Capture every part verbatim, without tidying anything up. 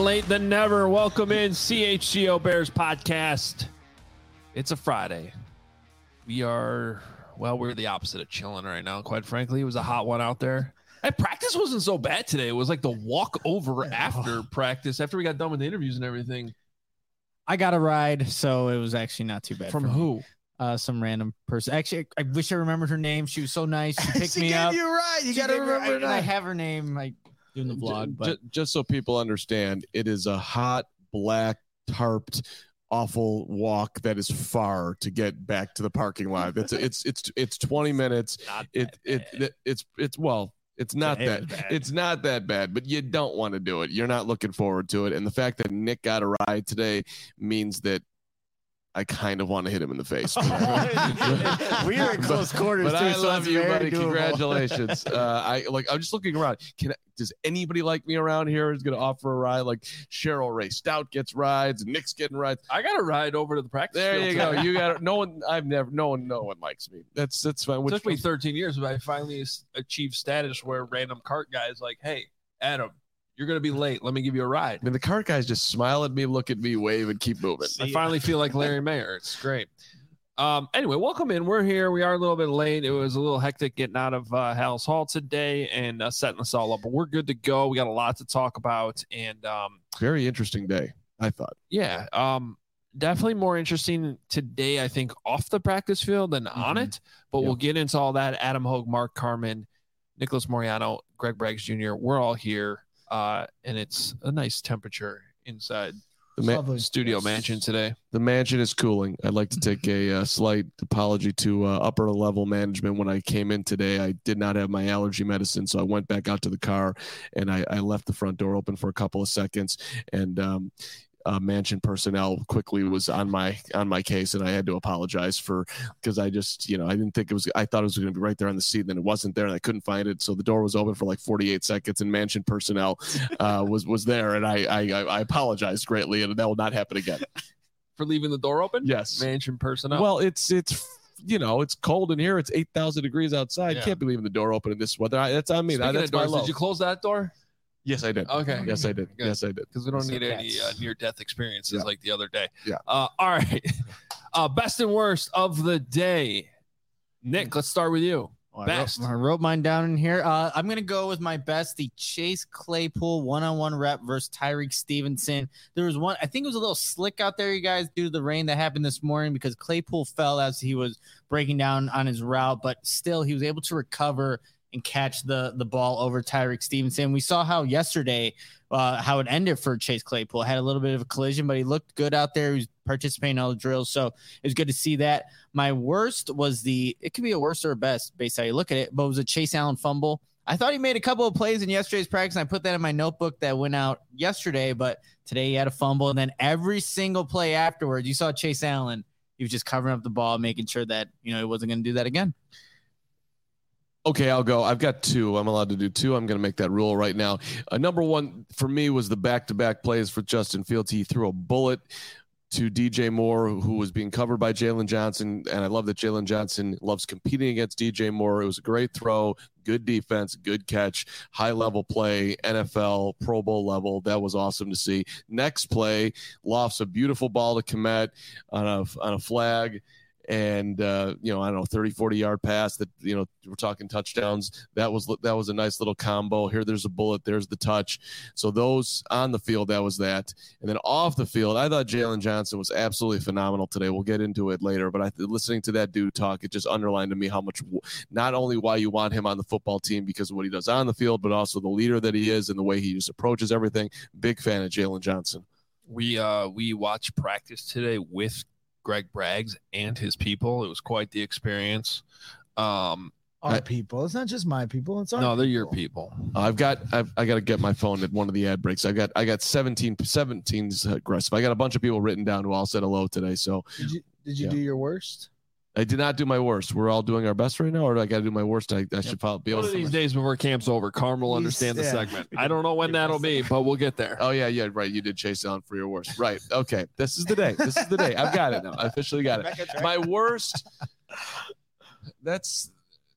late than never. Welcome in C H G O Bears podcast. It's a Friday. We are, well, we're the opposite of chilling right now, quite frankly. It was a hot one out there. And practice wasn't so bad today. It was like the walk over after practice, after we got done with the interviews and everything. I got a ride, so it was actually not too bad. From who? Uh, some random person. Actually, I wish I remembered her name. She was so nice. She picked she me gave up. You right. You She got to gave her- remember I, and I have her name. I doing the vlog, but just, just so people understand, it is a hot, black, tarped, awful walk that is far to get back to the parking lot. It's it's it's it's twenty minutes. Not It it, it it's it's well. It's not It that is bad. it's not that bad, but you don't want to do it. You're not looking forward to it. And the fact that Nick got a ride today means that I kind of want to hit him in the face. we are in close quarters. But too, I so love it's you, very buddy. doable. Congratulations. uh, I like. I'm just looking around. Can I, does anybody like me around here who's going to offer a ride? Like Cheryl Ray Stout gets rides, Nick's getting rides. I got a ride over to the practice There field you go. today. You got no one. I've never. No one. No one likes me. That's that's fine. It Which took me thirteen years, but I finally achieved status where random cart guys like, hey, Adam, you're going to be late. Let me give you a ride. I mean, the cart guys just smile at me, look at me, wave, and keep moving. I finally feel like Larry Mayer. It's great. Um, anyway, welcome in. We're here. We are a little bit late. It was a little hectic getting out of uh, Hal's Hall today and uh, setting us all up, but we're good to go. We got a lot to talk about. And um, Very interesting day, I thought. yeah, um, definitely more interesting today, I think, off the practice field than on Mhm. it. But Yep. we'll get into all that. Adam Hogue, Mark Carman, Nicholas Moriano, Greg Braggs Junior We're all here. Uh, and it's a nice temperature inside The, ma- Lovely. studio mansion today. the mansion is cooling. I'd like to take a uh, slight apology to uh, upper level management. When I came in today, I did not have my allergy medicine, so I went back out to the car and I, I left the front door open for a couple of seconds. And um, uh, mansion personnel quickly was on my on my case, and I had to apologize for because I just you know I didn't think it was. I thought it was going to be right there on the seat, and then it wasn't there, and I couldn't find it. So the door was open for like forty-eight seconds, and mansion personnel uh, was was there, and I I I apologized greatly, and that will not happen again. For leaving the door open? Yes. Mansion personnel. Well, it's it's you know it's cold in here. It's eight thousand degrees outside. Yeah. Can't be leaving the door open in this weather. I, that's on me. Speaking That's of my doors, low. did you close that door? Yes, I did. Okay. Yes, I did. Good. Yes, I did. Because we don't So need any cats. uh, near-death experiences Yeah. like the other day. Yeah. Uh, all right. uh, best and worst of the day. Nick, let's start with you. Well, I Best. wrote, I wrote mine down in here. Uh, I'm gonna go with my best, the Chase Claypool one-on-one rep versus Tyreek Stevenson. There was one, I think it was a little slick out there, you guys, due to the rain that happened this morning because Claypool fell as he was breaking down on his route, but still he was able to recover and catch the the ball over Tyreek Stevenson. We saw how yesterday uh, how it ended for Chase Claypool. Had a little bit of a collision, but he looked good out there. He was participating in all the drills, so it was good to see that. My worst was the, it could be a worst or a best based on how you look at it, but it was a Chase Allen fumble. I thought he made a couple of plays in yesterday's practice, and I put that in my notebook that went out yesterday, but today he had a fumble, and then every single play afterwards, you saw Chase Allen. He was just covering up the ball, making sure that, you know, he wasn't going to do that again. Okay, I'll go. I've got two. I'm allowed to do two. I'm going to make that rule right now. Uh, number one for me was the back-to-back plays for Justin Fields. He threw a bullet to D J Moore, who was being covered by Jalen Johnson, and I love that Jalen Johnson loves competing against D J Moore. It was a great throw, good defense, good catch, high-level play, N F L, Pro Bowl level. That was awesome to see. Next play, lofts a beautiful ball to Kmet on a, on a flag. And, uh, you know, I don't know, thirty, forty yard pass that, you know, we're talking touchdowns. That was, that was a nice little combo. Here, there's a bullet. There's the touch. So those on the field, that was that. And then off the field, I thought Jalen Johnson was absolutely phenomenal today. We'll get into it later, but I listening to that dude talk, it just underlined to me how much, not only why you want him on the football team because of what he does on the field, but also the leader that he is and the way he just approaches everything. Big fan of Jalen Johnson. We uh we watched practice today with Greg Braggs and his people. It was quite the experience. Um, Our I- people. It's not just my people. It's our no, they're your people. people. I've got I've, I got to get my phone at one of the ad breaks. I got I got seventeen seventeen's aggressive. I got a bunch of people written down who all said hello today. So Did you did you Yeah. do your worst? I did not do my worst. We're all doing our best right now, or do I got to do my worst? I, I should probably be able One of to. these days before camp's over, Carm will He's- understand the yeah. segment. I don't know when that'll be, but we'll get there. Oh yeah, yeah, right. You did Chase Allen for your worst, right? Okay, this is the day. This is the day. I've got it now. I officially got it. My worst. That's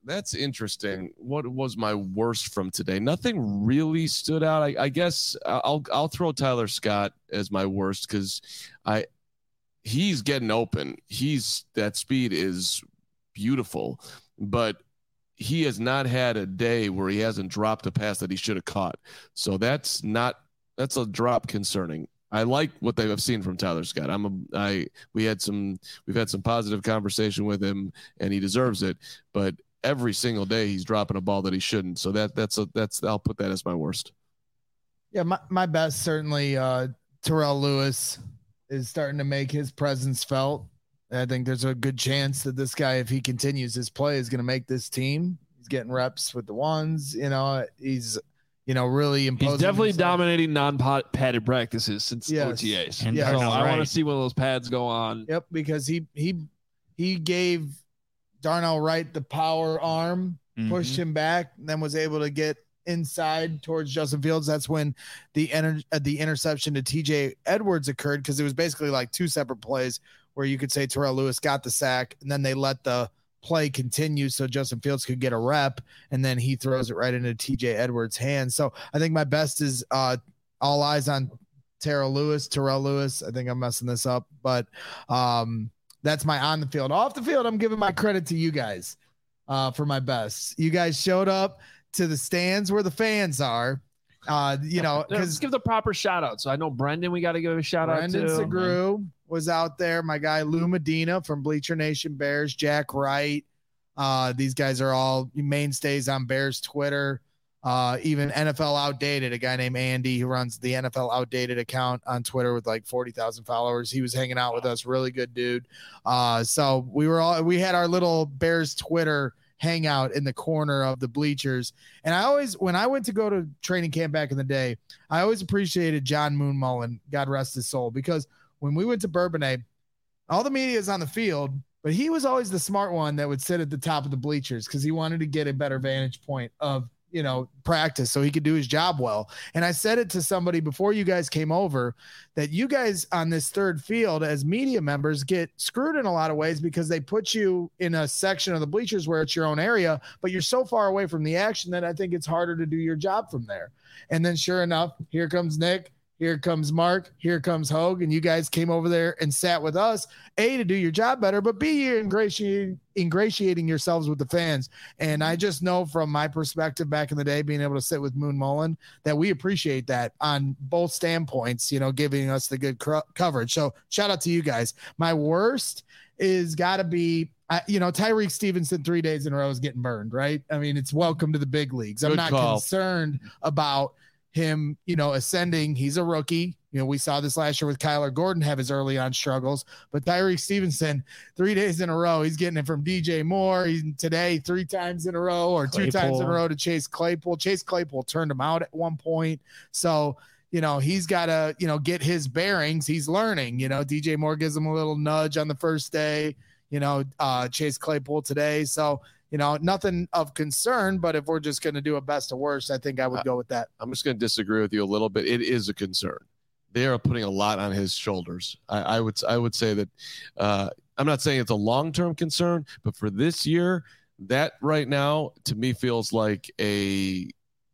that's interesting. What was my worst from today? Nothing really stood out. I, I guess I'll I'll throw Tyler Scott as my worst because I he's getting open. He's that speed is beautiful, but he has not had a day where he hasn't dropped a pass that he should have caught. So that's not that's a drop concerning. I like what they've seen from Tyler Scott. I'm a, I we had some we've had some positive conversation with him, and he deserves it. But every single day he's dropping a ball that he shouldn't. So that that's a that's I'll put that as my worst. Yeah, my, my best certainly uh, Terrell Lewis is starting to make his presence felt. I think there's a good chance that this guy, if he continues his play, is going to make this team. He's getting reps with the ones. You know, he's. You know, really imposing. He's definitely himself. dominating non-padded practices since Yes. O T As. And Yes. So I right. want to see one of those pads go on. Yep, because he he he gave Darnell Wright the power arm, Mhm. pushed him back, and then was able to get inside towards Justin Fields. That's when the enter, uh, the interception to T J Edwards occurred, because it was basically like two separate plays where you could say Terrell Lewis got the sack, and then they let the play continue so Justin Fields could get a rep, and then he throws it right into T J Edwards' hands. So I think my best is uh, all eyes on Terrell Lewis, Terrell Lewis. I think I'm messing this up, but um, that's my on the field. Off the field, I'm giving my credit to you guys uh, for my best. You guys showed up to the stands where the fans are. Uh, you know, Let's because give the proper shout out. So I know Brendan, we got to give a shout Brendan out to. Segru was out there. My guy Lou Medina from Bleacher Nation Bears, Jack Wright. Uh, these guys are all mainstays on Bears Twitter. Uh, even N F L Outdated, a guy named Andy who runs the N F L Outdated account on Twitter with like forty thousand followers. He was hanging out with us. Really good dude. Uh, so we were all, we had our little Bears Twitter hangout in the corner of the bleachers. And I always, when I went to go to training camp back in the day, I always appreciated John Moon Mullen, God rest his soul, because when we went to Bourbonnais, all the media is on the field, but he was always the smart one that would sit at the top of the bleachers because he wanted to get a better vantage point of, you know, practice so he could do his job well. And I said it to somebody before you guys came over that you guys on this third field as media members get screwed in a lot of ways because they put you in a section of the bleachers where it's your own area, but you're so far away from the action that I think it's harder to do your job from there. And then sure enough, here comes Nick. Here comes Mark. Here comes Hogue. And you guys came over there and sat with us, A, to do your job better, but B, you're ingratiating, ingratiating yourselves with the fans. And I just know from my perspective back in the day, being able to sit with Moon Mullen, that we appreciate that on both standpoints, you know, giving us the good cr- coverage. So shout out to you guys. My worst is got to be, uh, you know, Tyreek Stevenson three days in a row is getting burned, right? I mean, it's welcome to the big leagues. I'm Good not call. concerned about him, you know, ascending. He's a rookie. You know, we saw this last year with Kyler Gordon have his early on struggles, but Tyreek Stevenson, three days in a row, he's getting it from D J Moore. He's today three times in a row or two Claypool. times in a row to Chase Claypool. Chase Claypool turned him out at one point. So, you know, he's got to, you know, get his bearings. He's learning, you know, D J Moore gives him a little nudge on the first day, you know, uh, Chase Claypool today. So, you know, nothing of concern, but if we're just going to do a best to worst, I think I would go with that. I'm just going to disagree with you a little bit. It is a concern. They are putting a lot on his shoulders. I, I would I would say that uh, I'm not saying it's a long-term concern, but for this year, that right now to me feels like a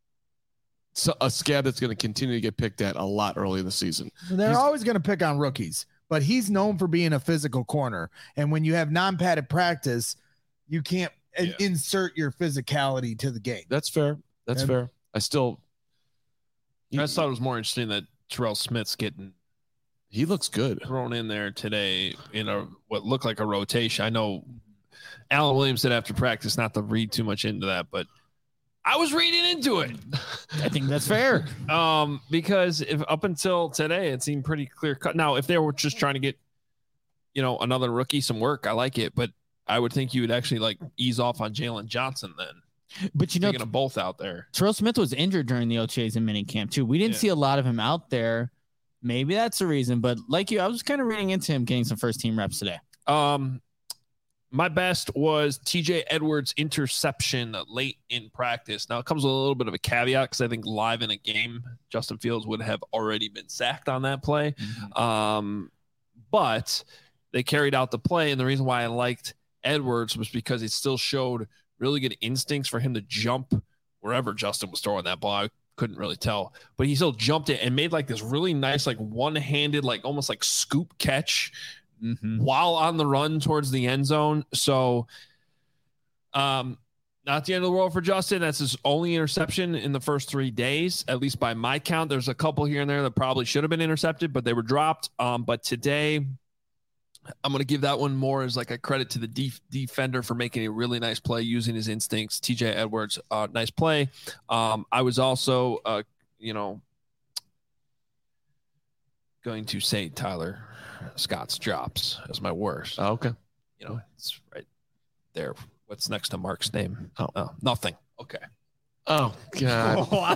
a scab that's going to continue to get picked at a lot early in the season. They're He's- always going to pick on rookies, but he's known for being a physical corner. And when you have non-padded practice, you can't Yeah. in- insert your physicality to the game. That's fair. That's And- fair. I still. I just thought it was more interesting that Terrell Smith's getting He looks good. thrown in there today in a what looked like a rotation. I know Alan Williams said after practice not to read too much into that, but I was reading into it. I think that's fair. Um, because if up until today it seemed pretty clear cut. Now, if they were just trying to get, you know, another rookie some work, I like it, but I would think you would actually like ease off on Jalen Johnson then. But you know, Taking them both out there. Terrell Smith was injured during the O T As and minicamp too. We didn't Yeah. see a lot of him out there. Maybe that's the reason. But like you, I was kind of reading into him getting some first team reps today. Um, my best was T J Edwards' interception late in practice. Now it comes with a little bit of a caveat because I think live in a game, Justin Fields would have already been sacked on that play. Um, but they carried out the play, and the reason why I liked Edwards was because it still showed really good instincts for him to jump wherever Justin was throwing that ball. I couldn't really tell, but he still jumped it and made like this really nice, like one-handed, like almost like scoop catch mm-hmm. while on the run towards the end zone. So, um, not the end of the world for Justin. That's his only interception in the first three days, at least by my count. There's a couple here and there that probably should have been intercepted, but they were dropped. Um, but today, I'm going to give that one more as like a credit to the def- defender for making a really nice play using his instincts. T J Edwards, uh, nice play. Um, I was also, uh, you know, going to say Tyler Scott's drops as my worst. Oh, okay. You know, it's right there. What's next to Mark's name? Oh, oh nothing. Okay. Oh God! Wow.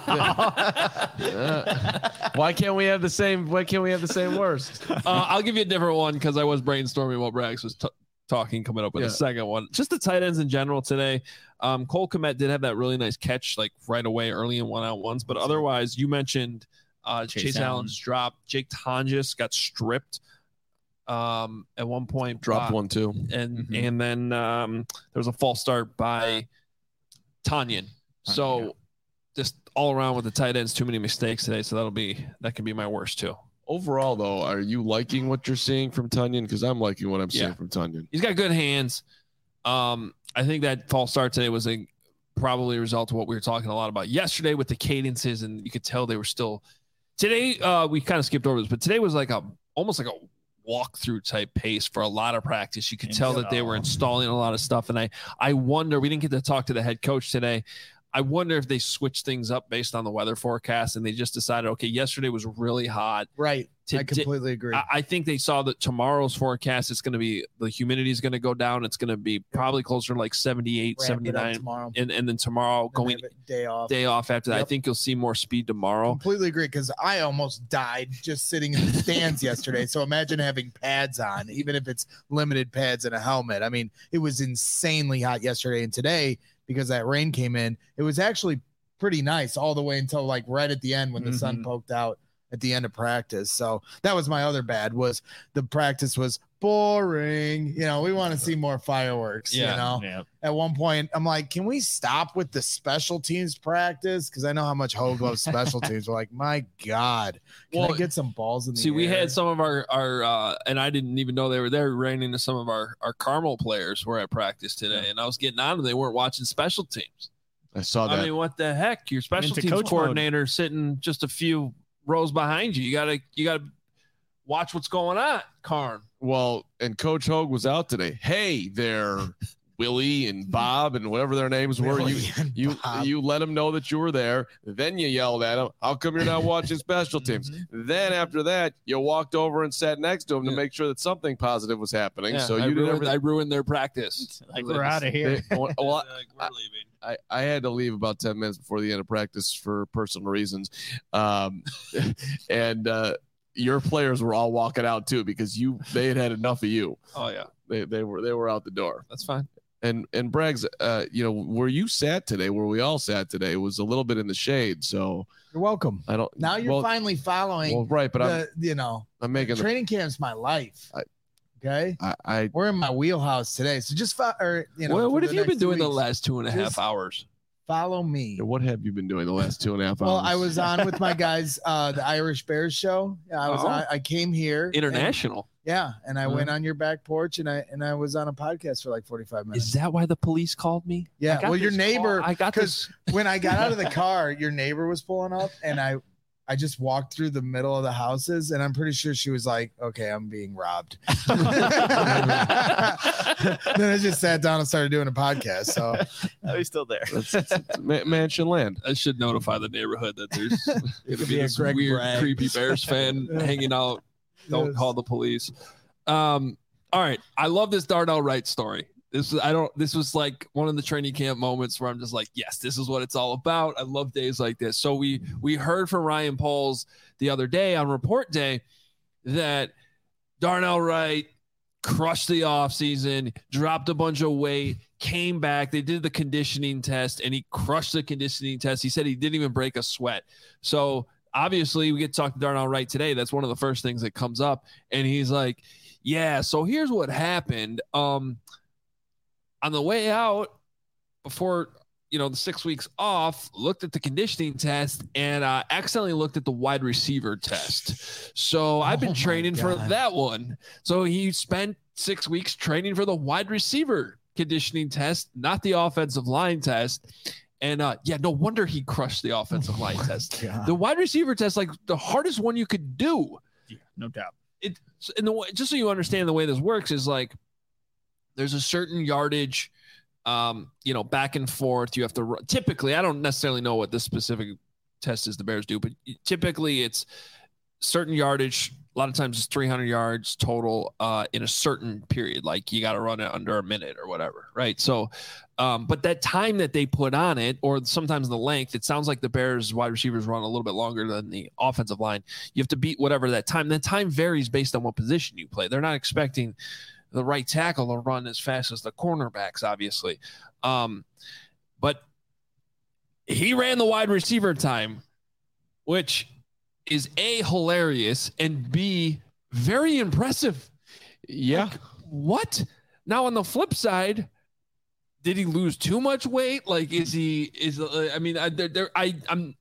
uh, why can't we have the same? Why can't we have the same worst? Uh, I'll give you a different one because I was brainstorming while Brax was t- talking. Coming up with yeah. a second one. Just the tight ends in general today. Um, Cole Kmet did have that really nice catch, like right away, early in one out ones. But otherwise, you mentioned uh, Chase, Chase Allen's drop. Jake Tonjes got stripped um, at one point. Dropped uh, one too, and mm-hmm. and then um, there was a false start by Tanyan. So yeah. just all around with the tight ends, too many mistakes today. So that'll be, that can be my worst too. Overall though, are you liking what you're seeing from Tanyan? Cause I'm liking what I'm seeing yeah. from Tanyan. He's got good hands. Um, I think that false start today was a probably a result of what we were talking a lot about yesterday with the cadences. And you could tell they were still today. Uh, we kind of skipped over this, but today was like a, almost like a walkthrough type pace for a lot of practice. You could tell that they were installing a lot of stuff. And I, I wonder, we didn't get to talk to the head coach today. I wonder if they switched things up based on the weather forecast and they just decided, okay, yesterday was really hot. Right. Today, I completely agree. I, I think they saw that tomorrow's forecast, it's going to be, the humidity is going to go down. It's going to be probably closer to like seventy-eight, Ramp seventy-nine. Tomorrow. And, and then tomorrow then going day off. Day off after that. Yep. I think you'll see more speed tomorrow. Completely agree because I almost died just sitting in the stands yesterday. So imagine having pads on, even if it's limited pads and a helmet. I mean, it was insanely hot yesterday and today. Because that rain came in, it was actually pretty nice all the way until like right at the end when the mm-hmm. sun poked out at the end of practice. So that was my other bad was the practice was boring. You know, we want to see more fireworks, yeah, you know, yeah. At one point I'm like, can we stop with the special teams practice? Cause I know how much Hogue loves special teams. We're like, my God, can well, I get some balls in the see, air? we had some of our, our, uh, and I didn't even know they were there, ran into some of our, our Carmel players were at practice today. Yeah. And I was getting on them. They weren't watching special teams. I saw that. I mean, what the heck? Your special teams coordinator mode. Sitting just a few rows behind you. You gotta, you gotta watch what's going on, Carm. Well, and Coach Hogue was out today. Hey there, Willie and Bob and whatever their names were. Willie you you Bob. you let them know that you were there. Then you yelled at them, how come you're not watching special teams? Mm-hmm. Then after that, you walked over and sat next to them yeah. to make sure that something positive was happening. Yeah, so I you ruined, did I ruined their practice. Like, we're out of here. They, well, well, like, we're I, leaving. I, I had to leave about ten minutes before the end of practice for personal reasons. Um, and uh, your players were all walking out too because you they had had enough of you. Oh yeah. They they were they were out the door. That's fine. And and Braggs, uh, you know, where you sat today, where we all sat today, was a little bit in the shade. So you're welcome. I don't. Now you're well, finally following. Well, right, but the, I'm you know I'm making training the, camp's my life. I, okay, I, I we're in my wheelhouse today. So just fo- or you know. Well, what have you been doing weeks, the last two and a half just hours? Follow me. What have you been doing the last two and a half hours? Well, I was on with my guys, uh, the Irish Bears show. Yeah, I was. Oh. On, I came here. International. And, yeah, and I Uh-huh. went on your back porch, and I and I was on a podcast for like forty-five minutes. Is that why the police called me? Yeah. I got Well, your this neighbor. call. I got this. When I got out of the car, your neighbor was pulling up, and I, I just walked through the middle of the houses, and I'm pretty sure she was like, "Okay, I'm being robbed." Then I just sat down and started doing a podcast. So oh, he's still there. That's, that's ma- mansion land. I should notify the neighborhood that there's going to be be a this Greg weird, Bragg. creepy Bears fan hanging out. Don't Yes. call the police. Um, all right, I love this Darnell Wright story. This is I don't. This was like one of the training camp moments where I'm just like, yes, this is what it's all about. I love days like this. So we we heard from Ryan Poles the other day on report day that Darnell Wright crushed the offseason, dropped a bunch of weight, came back. They did the conditioning test, and he crushed the conditioning test. He said he didn't even break a sweat. So obviously, we get to talk to Darnell Wright today. That's one of the first things that comes up. And he's like, yeah, so here's what happened. Um, on the way out, before, you know, the six weeks off, looked at the conditioning test and uh, accidentally looked at the wide receiver test. So I've been Oh, training my for God. that one. So he spent six weeks training for the wide receiver conditioning test, not the offensive line test. And uh, yeah, no wonder he crushed the offensive line test. God. The wide receiver test, like the hardest one you could do. Yeah, no doubt. It in the way, just so you understand the way this works is like there's a certain yardage, um, you know, back and forth. You have to run. Typically, I don't necessarily know what this specific test is the Bears do, but typically it's certain yardage. A lot of times it's three hundred yards total uh, in a certain period. Like you got to run it under a minute or whatever, right? So, um, but that time that they put on it, or sometimes the length, it sounds like the Bears wide receivers run a little bit longer than the offensive line. You have to beat whatever that time. That time varies based on what position you play. They're not expecting the right tackle to run as fast as the cornerbacks, obviously. Um, but he ran the wide receiver time, which is A, hilarious, and B, very impressive. Yeah. Like, what? Now on the flip side, did he lose too much weight? Like, is he, is, uh, I mean, I, there, there, I, I'm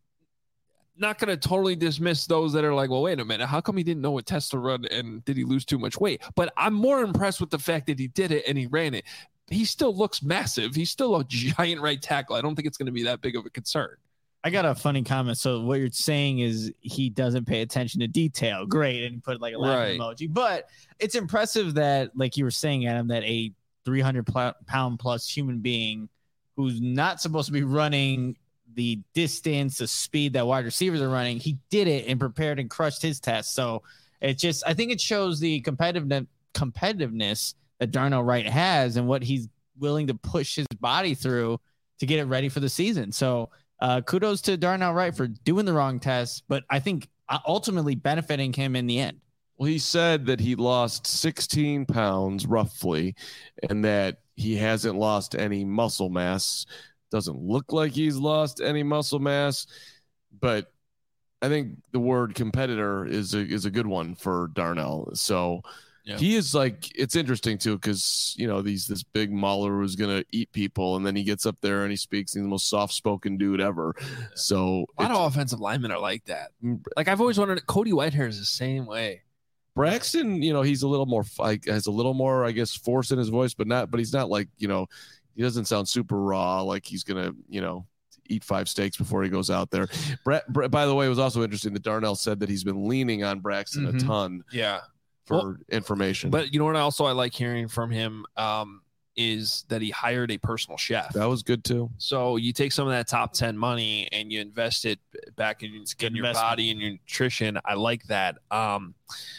not going to totally dismiss those that are like, well, wait a minute, how come he didn't know what test to run and did he lose too much weight? But I'm more impressed with the fact that he did it and he ran it. He still looks massive. He's still a giant right tackle. I don't think it's going to be that big of a concern. I got a funny comment. So what you're saying is he doesn't pay attention to detail. Great. And put like a laughing Right. emoji. But it's impressive that, like you were saying, Adam, that a three hundred pound plus human being who's not supposed to be running the distance, the speed that wide receivers are running, he did it and prepared and crushed his test. So it just, I think it shows the competitive competitiveness that Darnell Wright has and what he's willing to push his body through to get it ready for the season. So Uh, kudos to Darnell Wright for doing the wrong test, but I think ultimately benefiting him in the end. Well, he said that he lost sixteen pounds roughly, and that he hasn't lost any muscle mass. Doesn't look like he's lost any muscle mass, but I think the word competitor is a, is a good one for Darnell. So Yeah. he is like, it's interesting too, because, you know, these this big mauler who's going to eat people, and then he gets up there and he speaks, he's the most soft-spoken dude ever. So A lot of offensive linemen are like that. Like I've always wondered, Cody Whitehair is the same way. Braxton, you know, he's a little more, like, has a little more, I guess, force in his voice, but not, but he's not like, you know, he doesn't sound super raw, like he's going to, you know, eat five steaks before he goes out there. Bra- Bra- by the way, it was also interesting that Darnell said that he's been leaning on Braxton Mhm. a ton Yeah. for Well, information. But you know what also I like hearing from him um, is that he hired a personal chef. that was good too. So you take some of that top ten money and you invest it back in, in your investment. body and your nutrition. I like that. Um,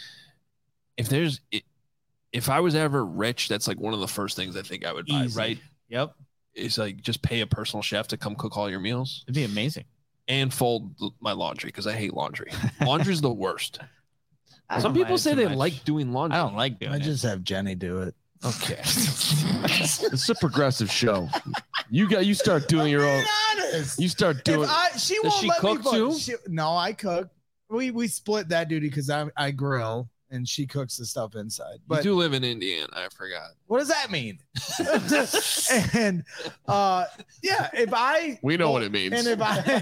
if there's, if I was ever rich, that's like one of the first things I think I would buy, Easy. right? Yep. Is like just pay a personal chef to come cook all your meals It'd be amazing. and fold my laundry because I hate laundry. Laundry's the worst. I Some don't people mind say too they much. like doing laundry. I don't like doing I it. just have Jenny do it. Okay. It's a progressive show. You got, you start doing your own, honest. you start doing, If I, she Does won't she let me cook vote. too? She, no, I cook. We we split that duty because I I grill and she cooks the stuff inside. You But do live in Indiana. I forgot. what does that mean? and uh, yeah, if I we know what it means. And if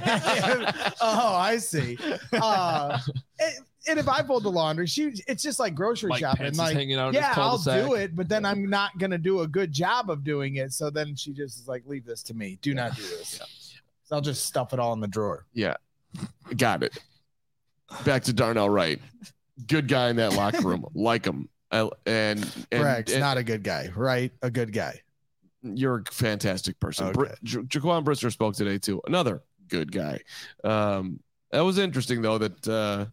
I oh I see. Uh, and, and if I fold the laundry, she it's just like grocery Mike shopping. Pence is Like hanging out in his yeah, I'll cul-de-sac. do it, but then I'm not gonna do a good job of doing it. So then she just is like, leave this to me. Do not do this. So I'll just stuff it all in the drawer. Yeah. Got it. Back to Darnell Wright. Good guy in that locker room. Like him. I, and and, Rex, and not a good guy, right? A good guy. you're a fantastic person. Okay. Br- Ja- Jaquan Brister spoke today too. Another good guy. Um, that was interesting though that uh,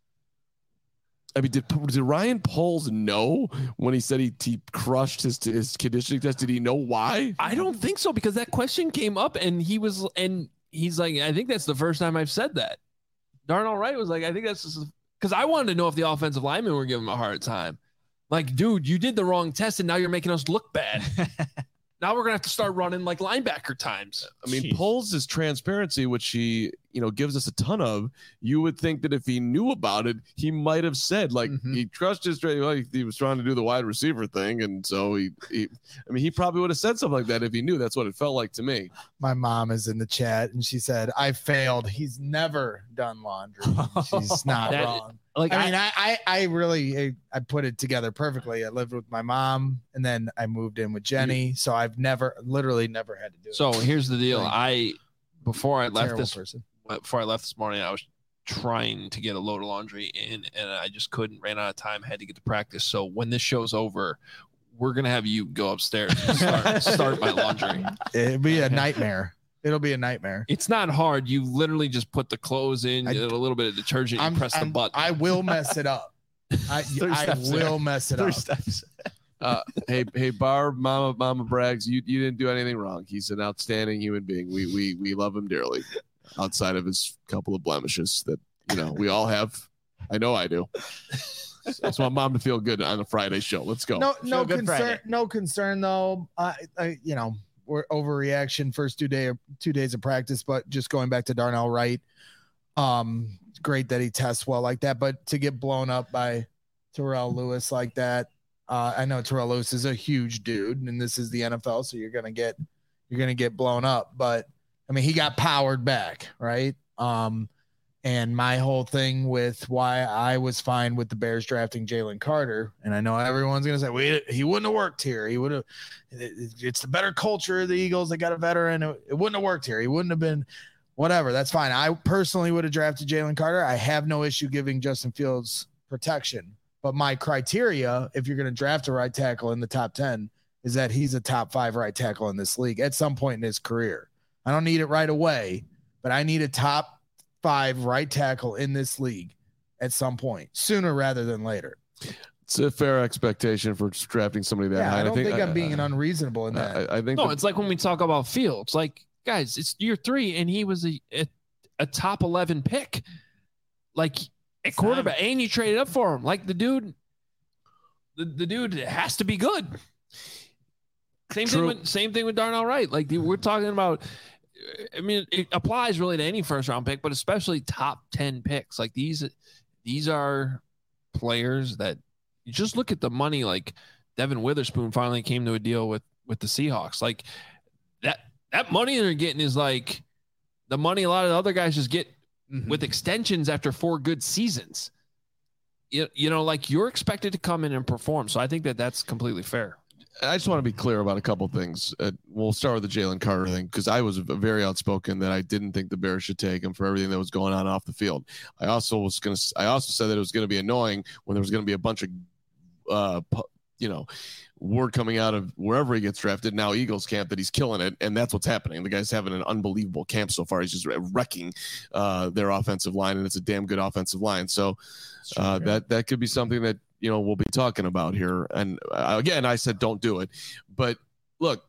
I mean, did, did Ryan Poles know when he said he, he crushed his his conditioning test? Did he know why? I don't think so because that question came up and he was and he's like, I think that's the first time I've said that. Darnell Wright was like, I think that's because I wanted to know if the offensive linemen were giving him a hard time. Like, dude, you did the wrong test and now you're making us look bad. Now we're gonna have to start running like linebacker times. I mean, Jeez. Poles' transparency, which he you know, gives us a ton of, you would think that if he knew about it, he might have said, like, Mhm. he trusted straight, well, he, he was trying to do the wide receiver thing. And so he, he, I mean, he probably would have said something like that if he knew. That's what it felt like to me. My mom is in the chat and she said, I failed. He's never done laundry. She's not That- wrong. Like I mean, I, I, I really, I, I put it together perfectly. I lived with my mom and then I moved in with Jenny. So I've never, literally never had to do it. So here's the deal. Like, I before I left Terrible this person. before I left this morning, I was trying to get a load of laundry in, and I just couldn't. Ran out of time. Had to get to practice. So when this show's over, we're gonna have you go upstairs and start, start my laundry. It'd be a nightmare. It'll be a nightmare. It's not hard. You literally just put the clothes in, I- get a little bit of detergent, you press the I'm- button. I will mess it up. I, Three I steps will there. mess it Three up. steps. Uh, hey, hey, Barb, Mama, Mama Braggs, you, you didn't do anything wrong. He's an outstanding human being. We, we, we love him dearly outside of his couple of blemishes that, you know, we all have. I know I do. So I just want Mom to feel good on a Friday show. Let's go. No, no Show Good concern. Friday. No concern though. I, I, you know, we're overreaction first two day, two days of practice. But just going back to Darnell Wright, um, great that he tests well like that. But to get blown up by Terrell Lewis like that, uh, I know Terrell Lewis is a huge dude, and this is the N F L, so you're gonna get, you're gonna get blown up. But I mean, he got powered back, right? Um, and my whole thing with why I was fine with the Bears drafting Jalen Carter, and I know everyone's gonna say, "Wait, he wouldn't have worked here. He would have. It's the better culture of the Eagles. They got a veteran. It, it wouldn't have worked here. He wouldn't have been whatever. That's fine. I personally would have drafted Jalen Carter. I have no issue giving Justin Fields protection, but my criteria, if you're gonna draft a right tackle in the top ten, is that he's a top five right tackle in this league at some point in his career. I don't need it right away, but I need a top five right tackle in this league at some point, sooner rather than later. It's a fair expectation for drafting somebody that Yeah, high. I And don't think, I, I'm being unreasonable in that. I, I think no, that- it's like when we talk about Fields. Like, guys, it's year three, and he was a a, a top eleven pick. Like at quarterback, and you traded up for him. Like the dude, the, the dude has to be good. Same True. thing with same thing with Darnell Wright. Like we're talking about. I mean, it applies really to any first round pick, but especially top ten picks. Like these, these are players that you just look at the money. Like Devin Witherspoon finally came to a deal with with the Seahawks. Like that that money they're getting is like the money a lot of the other guys just get Mhm. with extensions after four good seasons. You, you know, like you're expected to come in and perform. So I think that that's completely fair. I just want to be clear about a couple things. Uh, we'll start with the Jalen Carter thing because I was very outspoken that I didn't think the Bears should take him for everything that was going on off the field. I also was going to. I also said that it was going to be annoying when there was going to be a bunch of, uh, pu- you know, word coming out of wherever he gets drafted now Eagles camp that he's killing it, and that's what's happening. The guy's having an unbelievable camp so far. He's just wrecking uh, their offensive line, and it's a damn good offensive line. So uh, that that could be something that. You know, we'll be talking about here. And uh, again, I said, don't do it. But look,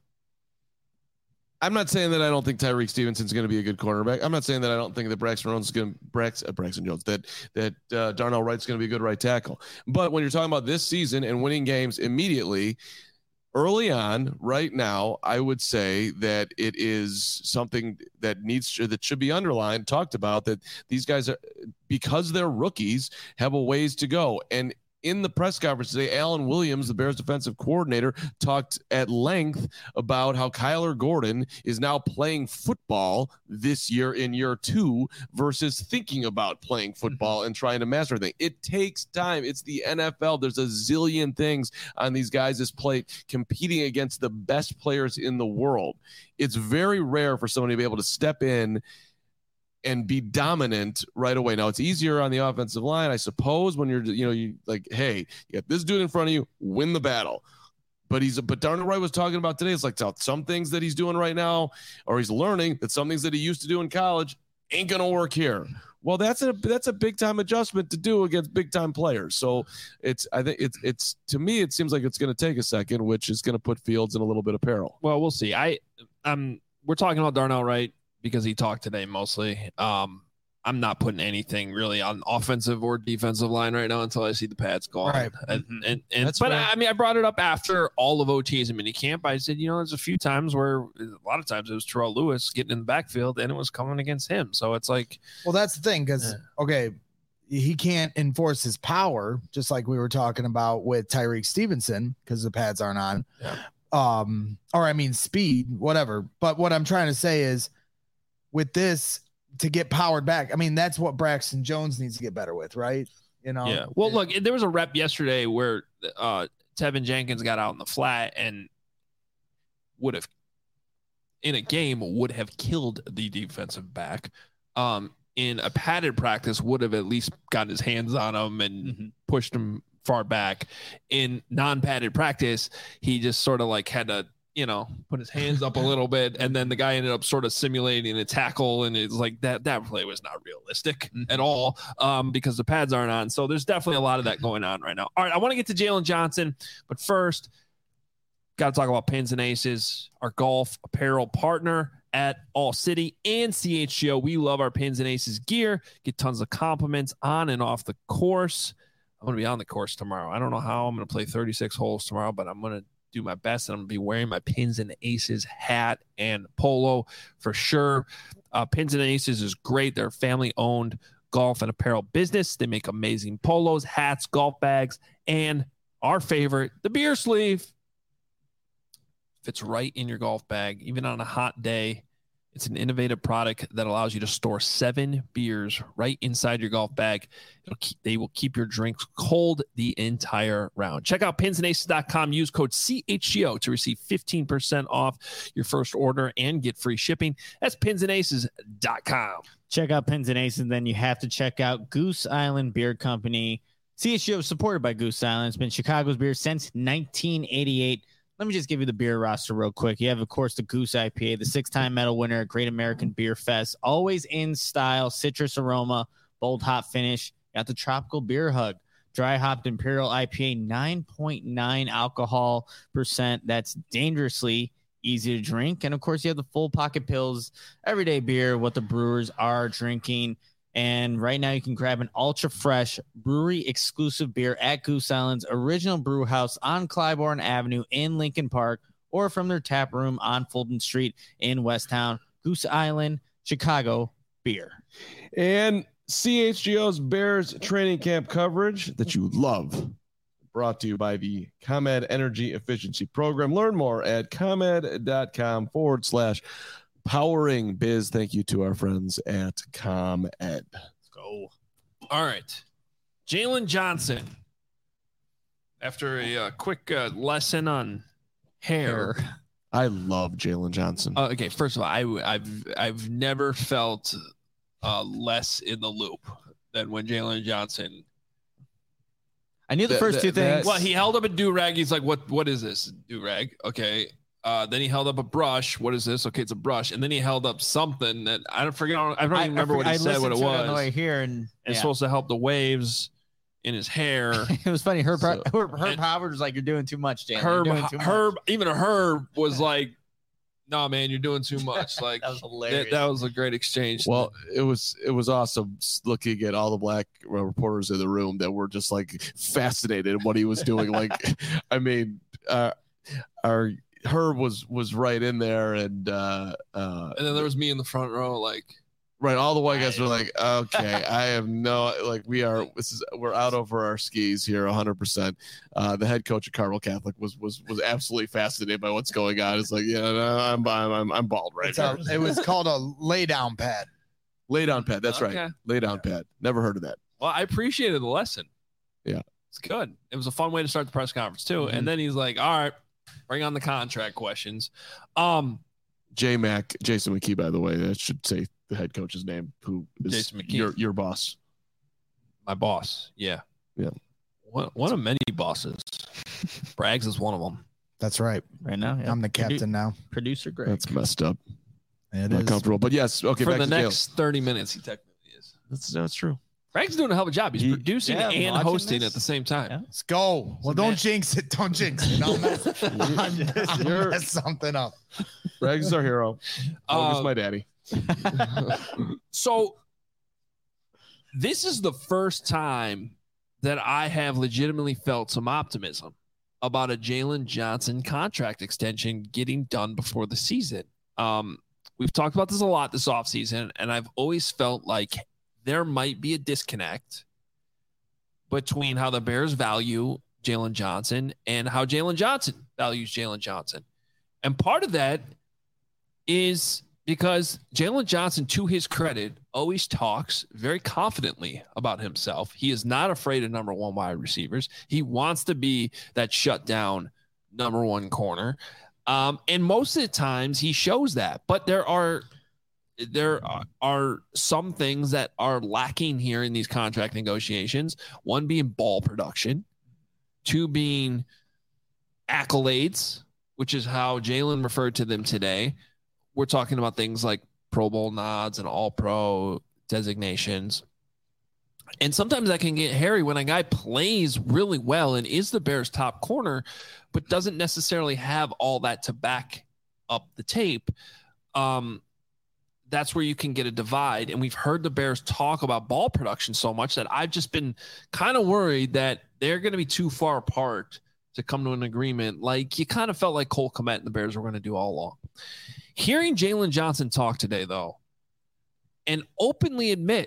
I'm not saying that I don't think Tyreek Stevenson's going to be a good quarterback. I'm not saying that I don't think that Braxton Jones is going to Brax, uh, Braxton Jones, that, that uh, Darnell Wright's going to be a good right tackle. But when you're talking about this season and winning games immediately, early on, right now, I would say that it is something that needs to, that should be underlined, talked about, that these guys are, because they're rookies, have a ways to go. And in the press conference today, Alan Williams, the Bears defensive coordinator, talked at length about how Kyler Gordon is now playing football this year in year two versus thinking about playing football and trying to master things. It takes time. It's the N F L. There's a zillion things on these guys' plate competing against the best players in the world. It's very rare for someone to be able to step in and be dominant right away. Now it's easier on the offensive line, I suppose, when you're, you know, you like, hey, you got this dude in front of you, win the battle. But he's, but Darnell Wright was talking about today. It's like some things that he's doing right now, or he's learning that some things that he used to do in college ain't gonna work here. Well, that's a that's a big time adjustment to do against big time players. So it's, I think it's it's to me it seems like it's going to take a second, which is going to put Fields in a little bit of peril. Well, we'll see. I um, we're talking about Darnell Wright because he talked today mostly. Um, I'm not putting anything really on offensive or defensive line right now until I see the pads gone. Right. And, Mhm. and, and That's but fair. I mean, I brought it up after all of O Ts and minicamp. I said, you know, there's a few times where a lot of times it was Terrell Lewis getting in the backfield and it was coming against him. So it's like, Well, that's the thing, because Yeah. okay, he can't enforce his power, just like we were talking about with Tyreek Stevenson, because the pads aren't on. Yeah. Um, or I mean speed, whatever. But what I'm trying to say is, with this, to get powered back, I mean, that's what Braxton Jones needs to get better with, right? You know. yeah. Well, look, there was a rep yesterday where uh, Tevin Jenkins got out in the flat and would have, in a game, would have killed the defensive back. Um, in a padded practice, would have at least gotten his hands on him and Mm-hmm. pushed him far back. In non-padded practice, he just sort of like had to, you know, put his hands up a little bit, and then the guy ended up sort of simulating a tackle, and it's like that that play was not realistic at all, um, because the pads aren't on. So there's definitely a lot of that going on right now. All right, I want to get to Jalen Johnson, but first, got to talk about Pins and Aces, our golf apparel partner at All City and C H G O. We love our Pins and Aces gear. Get tons of compliments on and off the course. I'm going to be on the course tomorrow. I don't know how I'm going to play thirty-six holes tomorrow, but I'm going to do my best, and I'm going to be wearing my Pins and Aces hat and polo for sure. Uh, Pins and Aces is great. They're a family-owned golf and apparel business. They make amazing polos, hats, golf bags, and our favorite, the beer sleeve. Fits right in your golf bag, even on a hot day. It's an innovative product that allows you to store seven beers right inside your golf bag. It'll keep, they will keep your drinks cold the entire round. Check out pins and aces dot com. Use code C H G O to receive fifteen percent off your first order and get free shipping. That's pins and aces dot com. Check out Pins and Aces, and then you have to check out Goose Island Beer Company. C H G O is supported by Goose Island. It's been Chicago's beer since nineteen eighty-eight. Let me just give you the beer roster real quick. You have, of course, the Goose I P A, the six-time medal winner at Great American Beer Fest. Always in style, citrus aroma, bold hop finish. Got the Tropical Beer Hug, dry hopped Imperial I P A, nine point nine alcohol percent. That's dangerously easy to drink. And, of course, you have the Full Pocket Pills, everyday beer, what the brewers are drinking. And right now you can grab an ultra fresh brewery exclusive beer at Goose Island's original brew house on Clybourne Avenue in Lincoln Park, or from their tap room on Fulton Street in Westtown. Goose Island, Chicago beer. And C H G O's Bears training camp coverage that you love. Brought to you by the ComEd Energy Efficiency Program. Learn more at ComEd.com forward slash powering biz. Thank you to our friends at ComEd. Let's go. All right. Jalen Johnson, after a uh, quick uh, lesson on hair. I love Jalen Johnson. Uh, okay, first of all, I, I've I've never felt uh, less in the loop than when Jalen Johnson. I knew the That- first that- two things. that's- Well, he held up a do-rag. He's like, "What? What is this do-rag?" Okay. Uh, then he held up a brush. What is this? Okay, it's a brush. And then he held up something that I don't forget. I don't even remember what he I said. What listened it to was. on the way here, and It's yeah. supposed to help the waves in his hair. it was funny. Herb, So- Herb, Herb and- Howard was like, "You're doing too much, Jalen. Herb, You're doing too much." Herb, even Herb was like, "No, man, you're doing too much." Like That was hilarious. that, that was a great exchange. Well, it was it was awesome looking at all the black reporters in the room that were just like fascinated in what he was doing. Like, I mean, uh, our Herb was was right in there, and uh, uh, and then there was me in the front row, like, right, all the white guys were like, "Okay, I have no like we are this is we're out over our skis here, one hundred percent." Uh, the head coach of Carmel Catholic was was was absolutely fascinated by what's going on. It's like, yeah, no, I'm I'm I'm, I'm bald right It's now. a, it was called a lay down pad. Lay down pad. That's Okay. right. Lay down pad. Never heard of that. well, I appreciated the lesson. Yeah. It's good. It was a fun way to start the press conference too. Mhm. And then he's like, "All right, bring on the contract questions." Um, J Mac, Jason McKee, by the way, that should say the head coach's name, who is Jason McKee. your your boss. my boss, yeah, Yeah. one one of many bosses. Braggs is one of them. That's right. right now. Yeah. I'm the captain now. Producer Greg. That's messed up. It Not is. comfortable. But yes, okay, For back the to Jalen. next thirty minutes, he technically is. That's that's true. Bragg's doing a hell of a job. He's He- producing yeah, and watching hosting this. at the same time. Yeah. Let's go. Well, don't jinx it. Don't jinx it. Don't mess, don't You're- mess something up. Braggs is our hero. Oh, Uh, it's my daddy. So this is the first time that I have legitimately felt some optimism about a Jalen Johnson contract extension getting done before the season. Um, we've talked about this a lot this offseason, and I've always felt like there might be a disconnect between how the Bears value Jalen Johnson and how Jalen Johnson values Jalen Johnson. And part of that is because Jalen Johnson, to his credit, always talks very confidently about himself. He is not afraid of number one wide receivers. He wants to be that shutdown number one corner. Um, and most of the times he shows that. But there are there are, are some things that are lacking here in these contract negotiations. One being ball production. Two being accolades, which is how Jalen referred to them today. We're talking about things like Pro Bowl nods and All-Pro designations. And sometimes that can get hairy when a guy plays really well and is the Bears' top corner, but doesn't necessarily have all that to back up the tape. Um, that's where you can get a divide. And we've heard the Bears talk about ball production so much that I've just been kind of worried that they're going to be too far apart to come to an agreement. Like you kind of felt like Cole Kmet and the Bears were going to do all along. Hearing Jalen Johnson talk today, though, and openly admit,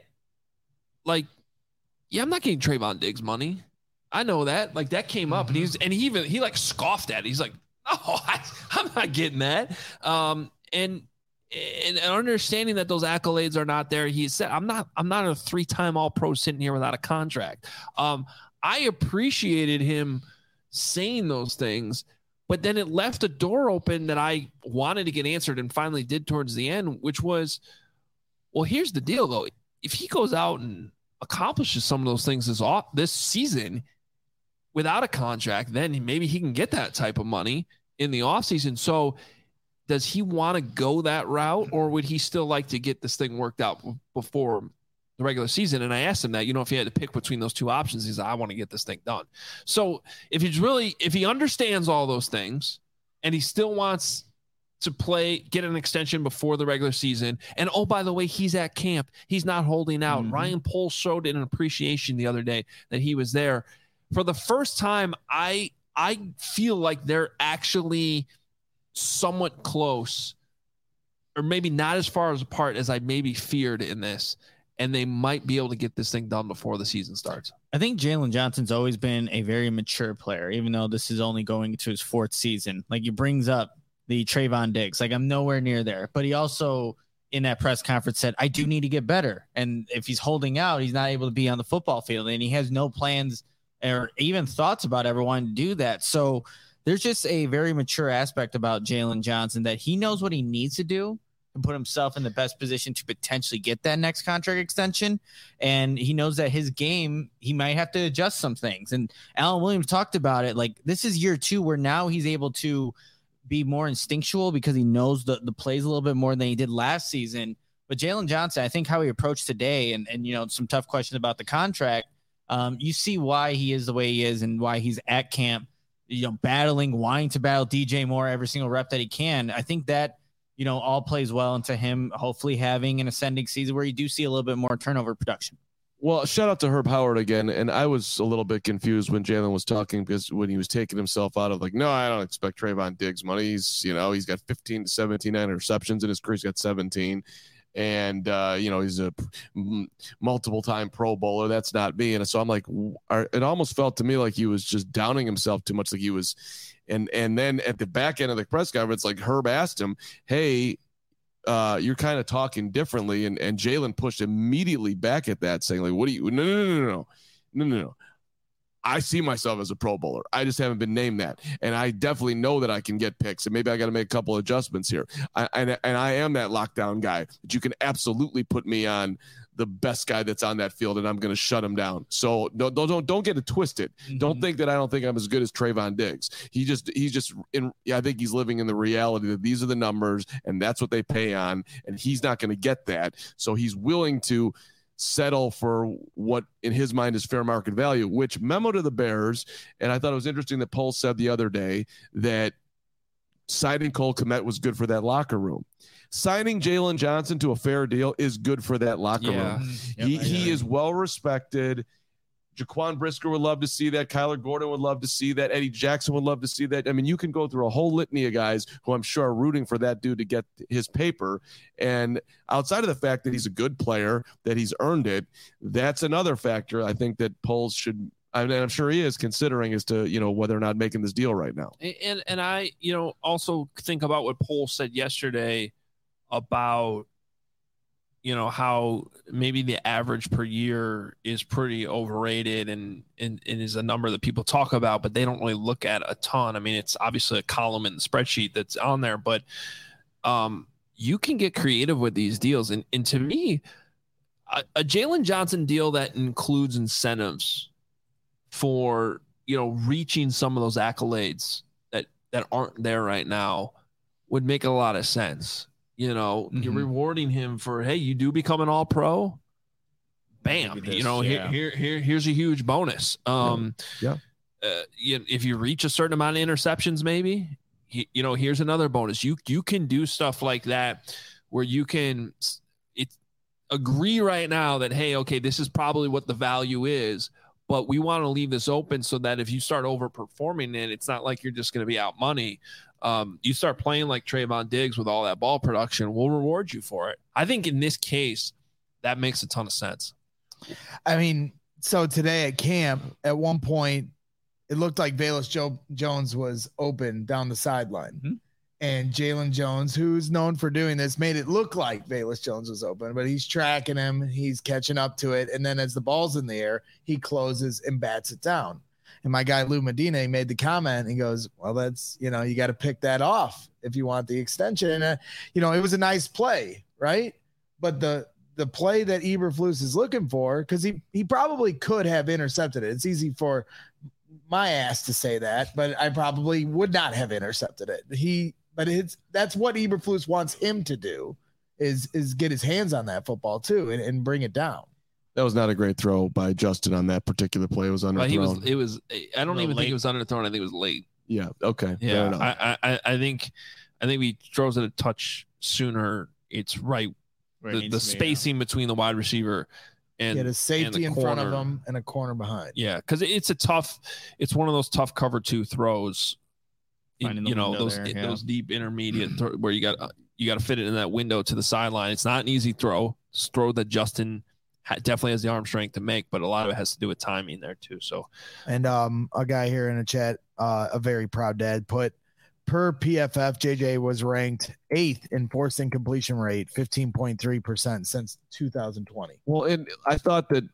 like, yeah, I'm not getting Trayvon Diggs money. I know that. Like, that came up, and he's and he even he like scoffed at it. He's like, no, I, I'm not getting that. Um, and and understanding that those accolades are not there, he said, I'm not I'm not a three-time All-Pro sitting here without a contract. Um, I appreciated him saying those things. But then it left a door open that I wanted to get answered and finally did towards the end, which was, well, here's the deal, though. If he goes out and accomplishes some of those things this, off, this season without a contract, then maybe he can get that type of money in the offseason. So does he want to go that route, or would he still like to get this thing worked out before the regular season? And I asked him that, you know, if he had to pick between those two options, he's like, I want to get this thing done. So if he's really, if he understands all those things and he still wants to play, get an extension before the regular season. And oh, by the way, he's at camp. He's not holding out. Mm-hmm. Ryan Poles showed an appreciation the other day that he was there. For the first time, I, I feel like they're actually somewhat close, or maybe not as far as apart as I maybe feared in this. And they might be able to get this thing done before the season starts. I think Jalen Johnson's always been a very mature player, even though this is only going into his fourth season. Like, he brings up the Trayvon Diggs. Like, I'm nowhere near there. But he also, in that press conference, said, I do need to get better. And if he's holding out, he's not able to be on the football field. And he has no plans or even thoughts about ever wanting to do that. So there's just a very mature aspect about Jalen Johnson that he knows what he needs to do and put himself in the best position to potentially get that next contract extension. And he knows that his game, he might have to adjust some things. And Alan Williams talked about it. Like, this is year two where now he's able to be more instinctual because he knows the, the plays a little bit more than he did last season. But Jalen Johnson, I think how he approached today and, and, you know, some tough questions about the contract, um, you see why he is the way he is and why he's at camp, you know, battling, wanting to battle D J Moore every single rep that he can. I think that, you know, all plays well into him hopefully having an ascending season where you do see a little bit more turnover production. Well, shout out to Herb Howard again. And I was a little bit confused when Jalen was talking, because when he was taking himself out of like, no, I don't expect Trayvon Diggs money. He's, you know, he's got fifteen to seventeen interceptions in his career. He's got seventeen. And, uh, you know, he's a multiple time Pro Bowler. That's not me. And so I'm like, it almost felt to me like he was just downing himself too much. Like he was, and, and then at the back end of the press conference, like Herb asked him, hey, uh, you're kind of talking differently. And, and Jalen pushed immediately back at that, saying like, what do you, no, no, no, no, no, no, no, no. I see myself as a Pro Bowler. I just haven't been named that. And I definitely know that I can get picks, and maybe I got to make a couple adjustments here. I, and, and I am that lockdown guy that you can absolutely put me on the best guy that's on that field, and I'm going to shut him down. So don't, don't, don't get it twisted. Mm-hmm. Don't think that I don't think I'm as good as Trayvon Diggs. He just, he's just in, I think he's living in the reality that these are the numbers and that's what they pay on. And he's not going to get that. So he's willing to settle for what in his mind is fair market value, which memo to the Bears. And I thought it was interesting that Paul said the other day that signing Cole Kmet was good for that locker room. Signing Jalen Johnson to a fair deal is good for that locker Yeah. room. Yep, he I he agree. is well respected. Jaquan Brisker would love to see that. Kyler Gordon would love to see that. Eddie Jackson would love to see that. I mean, you can go through a whole litany of guys who I'm sure are rooting for that dude to get his paper. And outside of the fact that he's a good player, that he's earned it, that's another factor I think that Poles should, and I'm sure he is considering, as to, you know, whether or not making this deal right now. And and I, you know, also think about what Poles said yesterday about, you know, how maybe the average per year is pretty overrated and, and, and is a number that people talk about, but they don't really look at a ton. I mean, it's obviously a column in the spreadsheet that's on there, but um, you can get creative with these deals. And, and to me, a, a Jalen Johnson deal that includes incentives for, you know, reaching some of those accolades that, that aren't there right now would make a lot of sense. You know, mm-hmm. You're rewarding him for, hey, you do become an all pro. Bam. This, you know, yeah. here, here, here, here's a huge bonus. Um, yeah. Uh, you, if you reach a certain amount of interceptions, maybe, you, you know, here's another bonus. You, you can do stuff like that where you can it, agree right now that, hey, okay, this is probably what the value is, but we want to leave this open so that if you start overperforming it, it's not like you're just going to be out money. Um, you start playing like Trayvon Diggs with all that ball production, we'll reward you for it. I think in this case, that makes a ton of sense. I mean, so today at camp, at one point, it looked like Velus jo- Jones was open down the sideline. Mm-hmm. And Jalen Jones, who's known for doing this, made it look like Velus Jones was open, but he's tracking him. He's catching up to it. And then as the ball's in the air, he closes and bats it down. And my guy, Lou Medina, he made the comment. He goes, well, that's, you know, you got to pick that off if you want the extension. And, uh, you know, it was a nice play, right? But the the play that Eberflus is looking for, because he, he probably could have intercepted it. It's easy for my ass to say that, but I probably would not have intercepted it. He, but it's, that's what Eberflus wants him to do, is, is get his hands on that football too and, and bring it down. That was not a great throw by Justin on that particular play. It was underthrown. He was, it was, I don't even late. think it was underthrown. I think it was late. Yeah. Okay. Yeah. I, I, I think, I think he throws it a touch sooner. It's right. Where the it the be, spacing yeah. between the wide receiver and he had a safety in corner. front of him and a corner behind. Yeah. Cause it's a tough, it's one of those tough cover two throws, in, you know, those, there, yeah. those deep intermediate th- where you got, uh, you got to fit it in that window to the sideline. It's not an easy throw. It's a throw that Justin definitely has the arm strength to make, but a lot of it has to do with timing there too. So, and um, a guy here in the chat, uh, a very proud dad, put per P F F, J J was ranked eighth in forced incompletion rate, fifteen point three percent since two thousand twenty. Well, and I thought that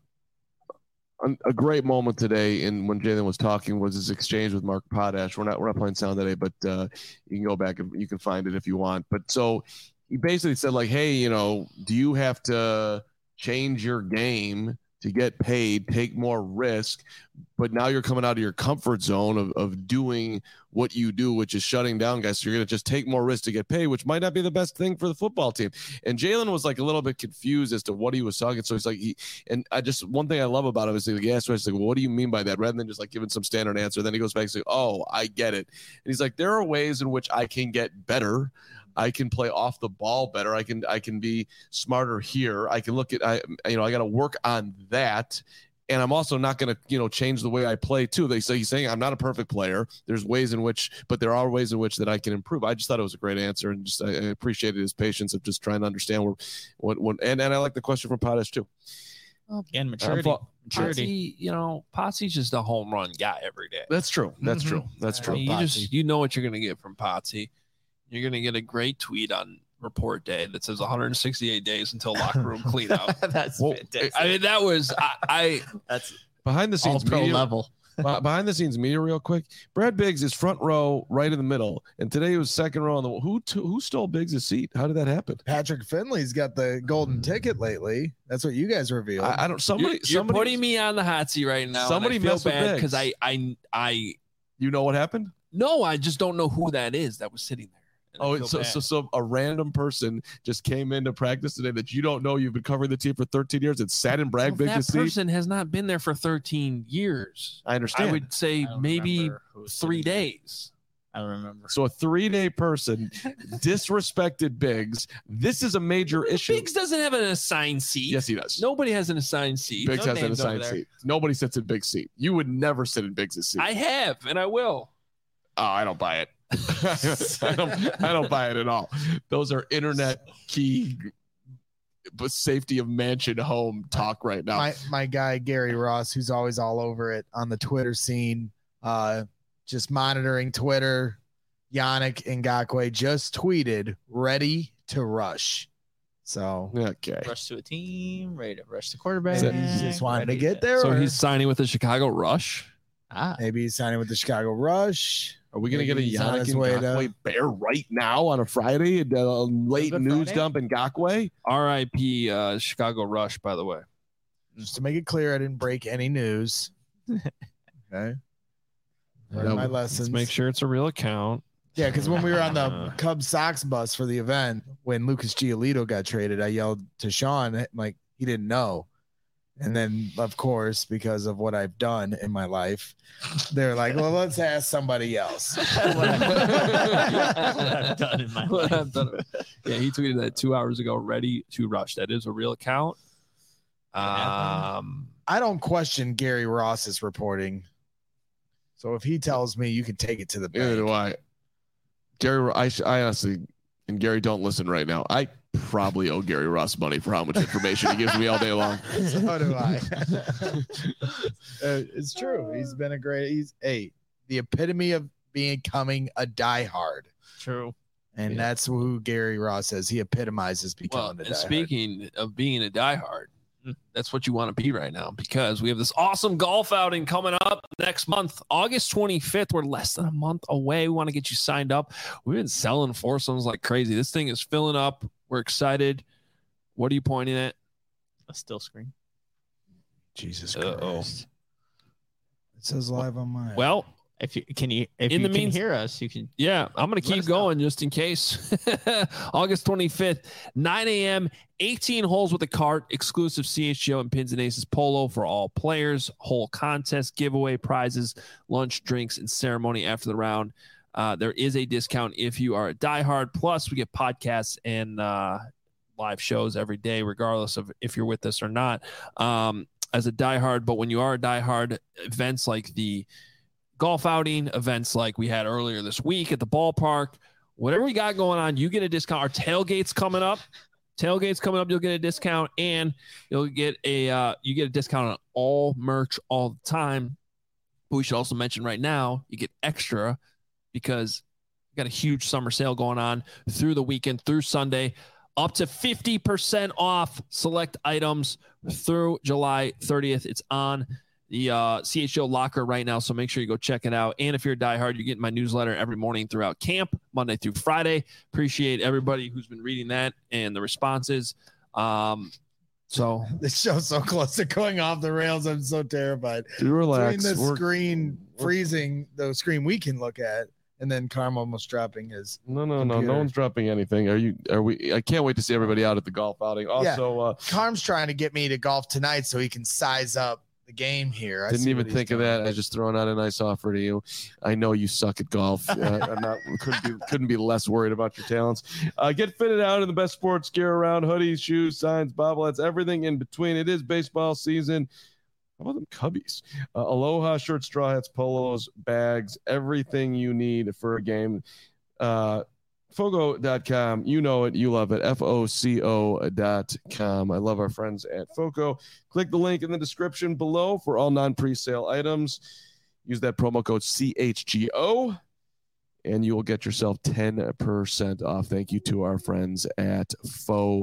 a great moment today, in when Jalen was talking, was his exchange with Mark Potash. We're not we're not playing sound today, but uh, you can go back and you can find it if you want. But so he basically said, like, hey, you know, do you have to change your game to get paid, take more risk, but now you're coming out of your comfort zone of, of doing what you do, which is shutting down guys. So you're going to just take more risk to get paid, which might not be the best thing for the football team. And Jalen was like a little bit confused as to what he was talking. So he's like, he, and I just, one thing I love about him is like, he asked me, like, well, what do you mean by that? Rather than just like giving some standard answer. Then he goes back and says, oh, I get it. And he's like, there are ways in which I can get better. I can play off the ball better. I can I can be smarter here. I can look at I you know I got to work on that, and I'm also not going to you know change the way I play too. They say he's saying I'm not a perfect player. There's ways in which, but there are ways in which that I can improve. I just thought it was a great answer, and just I, I appreciated his patience of just trying to understand where, what what and and I like the question from Potash too. Well, and maturity. Uh, maturity, you know, Potsy's just a home run guy every day. That's true. That's mm-hmm. true. That's true. I mean, you just you know what you're going to get from Potsy. You're going to get a great tweet on report day that says one hundred sixty-eight days until locker room cleanout. That's well, fantastic. I mean, that was I. I That's behind the scenes all pro media, level. behind the scenes media, real quick. Brad Biggs is front row, right in the middle, and today he was second row on the. Who t- who stole Biggs' seat? How did that happen? Patrick Finley's got the golden ticket lately. That's what you guys revealed. I, I don't. Somebody. you're, you're somebody, putting me on the hot seat right now. Somebody and I feel messed with bad Biggs. because I I I. You know what happened? No, I just don't know who that is that was sitting there. Oh, so, so so a random person just came into practice today that you don't know. You've been covering the team for thirteen years and sat in Brad well, Biggs' that seat. person has not been there for thirteen years. I understand. I would say I don't maybe remember who was three sitting there. days. I don't remember. So a three-day person disrespected Biggs. This is a major issue. Biggs doesn't have an assigned seat. Yes, he does. Nobody has an assigned seat. Biggs No has an names assigned over there. seat. Nobody sits in Biggs' seat. You would never sit in Biggs' seat. I have, and I will. Oh, I don't buy it. I don't. I don't buy it at all. Those are internet key, but safety of mansion home talk right now. My my guy Gary Ross, who's always all over it on the Twitter scene, uh, just monitoring Twitter. Yannick Ngakoue just tweeted, "Ready to rush." So Okay. Rush to a team, ready to rush the quarterback. maybe he just wanted to ready get there. So or he's signing with the Chicago Rush. Ah, maybe he's signing with the Chicago Rush. Are we going to get a Maybe he's on Yannick his way to- Ngakoue bear right now on a Friday? A late Good news Friday? dump in Ngakoue? R I P uh, Chicago Rush, by the way. Just to make it clear, I didn't break any news. Okay. Learned No, my let's lessons. Let's make sure it's a real account. Yeah, because when we were on the Uh. Cubs Sox bus for the event, when Lucas Giolito got traded, I yelled to Sean, like, he didn't know. And then, of course, because of what I've done in my life, they're like, well, let's ask somebody else. what I've done in my What life. I've done. Yeah, he tweeted that two hours ago. Ready to rush. That is a real account. Um, I don't question Gary Ross's reporting. So if he tells me, you can take it to the Neither do bank. I. Gary, I, sh- I honestly, and Gary, don't listen right now. I probably owe Gary Ross money for how much information he gives me all day long. So do I. Uh, it's true. He's been a great, he's a, the epitome of becoming a diehard. True. And Yeah. that's who Gary Ross is. He epitomizes well, becoming and a diehard. speaking of being a diehard, that's what you want to be right now, because we have this awesome golf outing coming up next month, August twenty-fifth. We're less than a month away. We want to get you signed up. We've been selling foursomes like crazy. This thing is filling up. We're excited. What are you pointing at? A still screen. Jesus Uh-oh. Christ. It says live on mine. Well, If you can you if In you the can means- hear us, you can. yeah, I'm going to Let keep us know. going just in case. August twenty-fifth, nine a.m., eighteen holes with a cart, exclusive C H G O and Pins and Aces polo for all players, whole contest, giveaway prizes, lunch, drinks, and ceremony after the round. Uh, there is a discount if you are a diehard. Plus, we get podcasts and uh, live shows every day, regardless of if you're with us or not, um, as a diehard. But when you are a diehard, events like the golf outing, events like we had earlier this week at the ballpark, whatever we got going on, you get a discount. Our tailgate's coming up. Tailgate's coming up. You'll get a discount, and you'll get a uh, you get a discount on all merch all the time. But we should also mention right now, you get extra because we got a huge summer sale going on through the weekend, through Sunday, up to fifty percent off select items through July thirtieth. It's on the uh, C H O locker right now, so make sure you go check it out. And if you're a diehard, you're getting my newsletter every morning throughout camp, Monday through Friday. Appreciate everybody who's been reading that and the responses. Um, so This show's so close to going off the rails. I'm so terrified. Do relax. Between the We're- screen we're- freezing, the screen we can look at, and then Carm almost dropping his. No, no, no, computer. no one's dropping anything. Are you? Are we? I can't wait to see everybody out at the golf outing. Also, uh, Carm's trying to get me to golf tonight so he can size up the game here. I didn't see even what he's think of doing. that. I just throwing out a nice offer to you. I know you suck at golf. Uh, I'm not couldn't be couldn't be less worried about your talents. Uh, get fitted out in the best sports gear around: hoodies, shoes, signs, bobbleheads, everything in between. It is baseball season. How about them Cubbies? Uh, Aloha shirts, straw hats, polos, bags, everything you need for a game. Uh, Fogo dot com. You know it. You love it. F O C O dot com. I love our friends at Foco. Click the link in the description below for all non-presale items. Use that promo code C H G O and you will get yourself ten percent off. Thank you to our friends at Foco.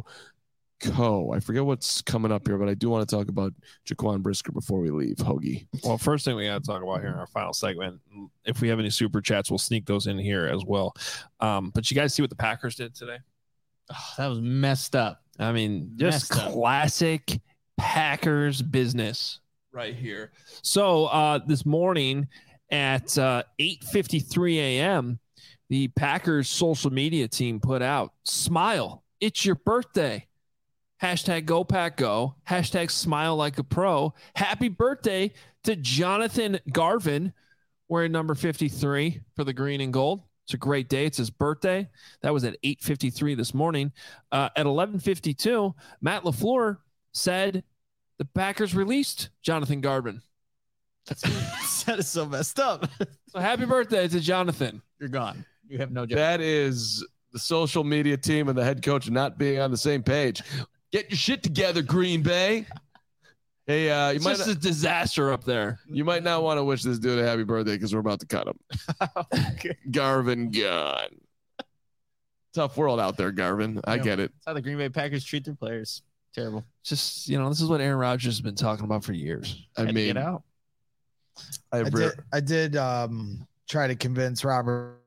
I forget what's coming up here, but I do want to talk about Jaquan Brisker before we leave. Hoagie. Well, first thing we got to talk about here in our final segment, if we have any super chats, we'll sneak those in here as well. Um, but you guys see what the Packers did today? Oh, that was messed up. I mean, just Messed up. classic Packers business right here. So uh, this morning at uh, eight fifty-three a.m., the Packers social media team put out, smile, it's your birthday. Hashtag go pack go. Hashtag smile like a pro. Happy birthday to Jonathan Garvin, wearing number fifty-three for the green and gold. It's a great day. It's his birthday. That was at eight fifty-three this morning. Uh, at eleven fifty-two, Matt LaFleur said the Packers released Jonathan Garvin. That's that is so messed up. So happy birthday to Jonathan. You're gone. You have no job. That is the social media team and the head coach not being on the same page. Get your shit together, Green Bay. Hey, uh, you It's might just not, a disaster up there. you might not want to wish this dude a happy birthday because we're about to cut him. Okay. Garvin gone. Tough world out there, Garvin. I Yeah. get it. That's how the Green Bay Packers treat their players. Terrible. Just, you know, this is what Aaron Rodgers has been talking about for years. I Had to mean, get out. I, I re- did, I did um, try to convince Robert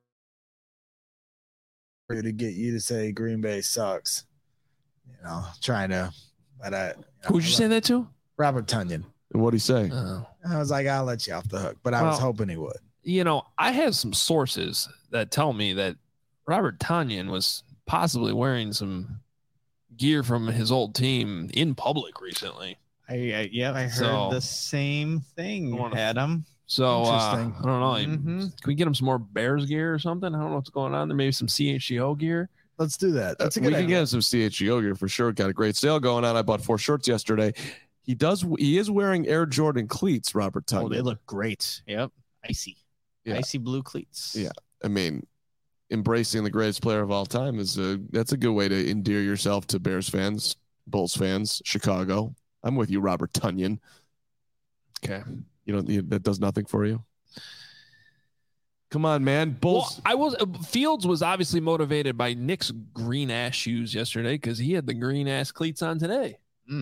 to get you to say Green Bay sucks. You know, trying to, but I. You know, Who would you say that to? Robert Tunyon. what'd he say? Oh. I was like, I'll let you off the hook, but I was Well- hoping he would. You know, I have some sources that tell me that Robert Tanyan was possibly wearing some gear from his old team in public recently. I, I yeah, I heard So- the same thing, I wanna- Adam. So uh, Interesting. I don't know. Mhm. Can we get him some more Bears gear or something? I don't know what's going on there. Maybe some C H G O gear. Let's do that. That's a Uh, good we can idea. get him some C H G O gear for sure. Got a great sale going on. I bought four shirts yesterday. He does. He is wearing Air Jordan cleats, Robert Oh, Tunyon. they look great. Yep. Icy. Yeah. Icy blue cleats. Yeah. I mean, embracing the greatest player of all time is a that's a good way to endear yourself to Bears fans, Bulls fans, Chicago. I'm with you, Robert Tunyon. Okay. You know you- that does nothing for you. Come on, man. Bulls. Well, I was uh, Fields was obviously motivated by Nick's green ass shoes yesterday because he had the green ass cleats on today.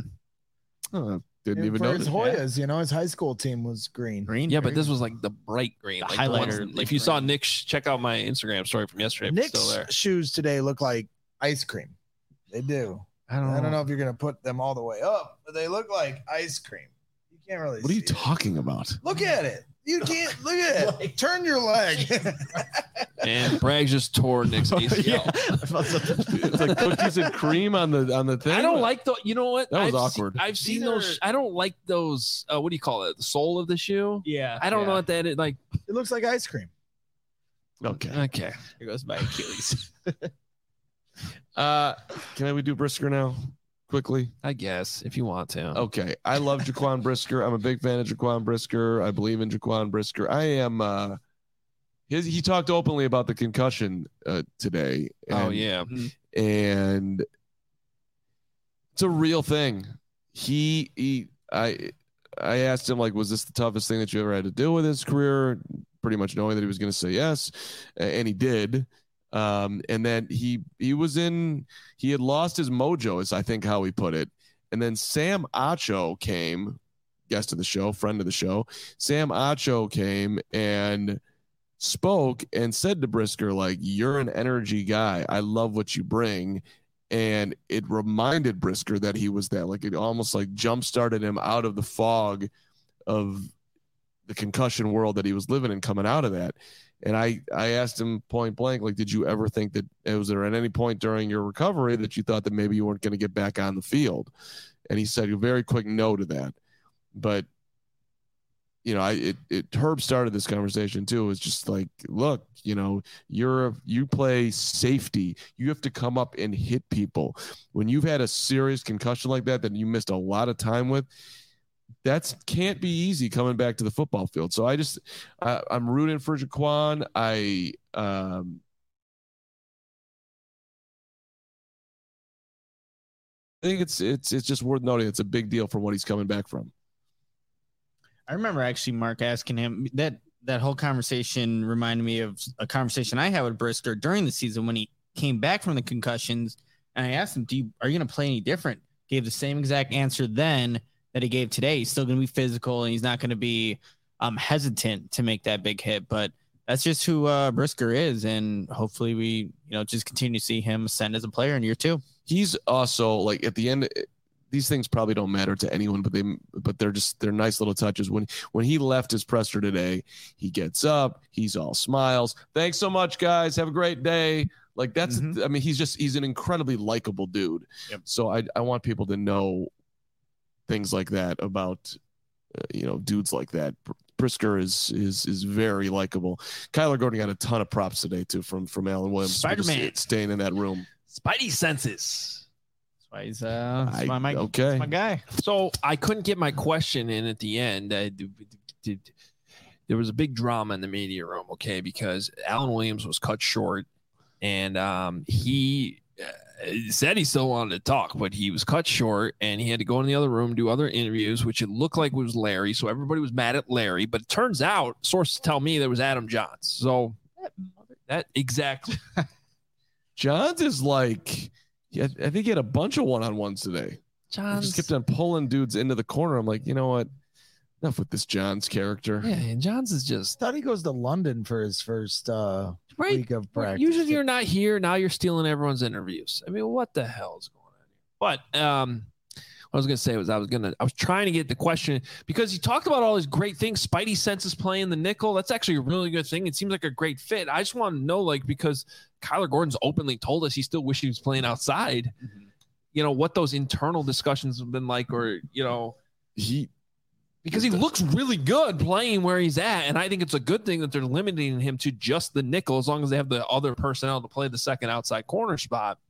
Oh, didn't And even for know. his that. Hoyas, you know, his high school team was green. Green. Yeah, but very this good. was like the bright green. The like the ones- highlighter, if like you saw green. Nick's, check out my Instagram story from yesterday. If it's Nick's still there. shoes today look like ice cream. They do. I don't, I don't know if you're gonna put them all the way up, but they look like ice cream. You can't really. What are you see it. talking about? Look at it. You can't look at it. Turn your leg. And Bragg just tore Nick's A C L. It's like cookies and cream on the on the thing. I don't like the. You know what? That was I've awkward. Se- I've seen These those. are- I don't like those. Uh, what do you call it? The sole of the shoe. Yeah. I don't know yeah. what that is. Like, It looks like ice cream. Okay. okay. Here goes my Achilles. Uh, can we do Brisker now? Quickly. I guess if you want to. Okay. I love Jaquan Brisker. I'm a big fan of Jaquan Brisker. I believe in Jaquan Brisker. I am. Uh, his, he talked openly about the concussion uh, today. Oh and- yeah. and it's a real thing. He, he, I, I asked him like, was this the toughest thing that you ever had to deal with in his career? Pretty much knowing that he was going to say yes, and he did. Um, and then he he was in. He had lost his mojo, is I think how he put it. And then Sam Acho came, guest of the show, friend of the show. Sam Acho came and spoke and said to Brisker, like, you're an energy guy. I love what you bring. And it reminded Brisker that he was that, like it almost like jump started him out of the fog of the concussion world that he was living in coming out of that. And I, I asked him point blank, like, did you ever think that, was there at any point during your recovery that you thought that maybe you weren't going to get back on the field? And he said a very quick no to that. But, you know, I, it, it, Herb started this conversation too. It was just like, look, you know, you're, you play safety. You have to come up and hit people. When you've had a serious concussion like that, that you missed a lot of time with, that's can't be easy coming back to the football field. So I just, I, I'm rooting for Jaquan. I, um, I think it's, it's, it's just worth noting. It's a big deal from what he's coming back from. I remember actually Mark asking him that that whole conversation reminded me of a conversation I had with Brisker during the season when he came back from the concussions. And I asked him, do you, are you going to play any different? Gave the same exact answer then that he gave today. He's still going to be physical and he's not going to be um, hesitant to make that big hit. But that's just who uh, Brisker is. And hopefully we, you know, just continue to see him ascend as a player in year two. He's also like at the end, these things probably don't matter to anyone, but they, but they're just, they're nice little touches. When, when he left his presser today, he gets up, he's all smiles. Thanks so much, guys. Have a great day. Like that's, Mhm. I mean, he's just, he's an incredibly likable dude. Yep. So I, I want people to know things like that about, uh, you know, dudes like that. Brisker is is is very likable. Kyler Gordon got a ton of props today too from from Alan Williams. Spider-Man staying in that room. Spidey senses. That's why he's uh, that's I, why my, okay, that's my guy. So I couldn't get my question in at the end. I did, did, there was a big drama in the media room, okay, because Alan Williams was cut short, and um, he uh, said he still wanted to talk, but he was cut short, and he had to go in the other room, do other interviews, which it looked like was Larry. So everybody was mad at Larry, but it turns out sources tell me there was Adam Johns. So that, that exactly. Johns is like, yeah, I think he had a bunch of one-on-ones today. Johns He just kept on pulling dudes into the corner. I'm like, you know what? Enough with this Johns character. Yeah, and Johns is just Thought he goes to London for his first uh, right. week of practice. Usually you're not here. Now you're stealing everyone's interviews. I mean, what the hell is going on here? But um, what I was gonna say was I was gonna I was trying to get the question because he talked about all these great things. Spidey senses playing the nickel. That's actually a really good thing. It seems like a great fit. I just want to know, like, because Kyler Gordon's openly told us he still wishes he was playing outside. Mm-hmm. You know what those internal discussions have been like, or you know, he. Because he looks really good playing where he's at. And I think it's a good thing that they're limiting him to just the nickel as long as they have the other personnel to play the second outside corner spot.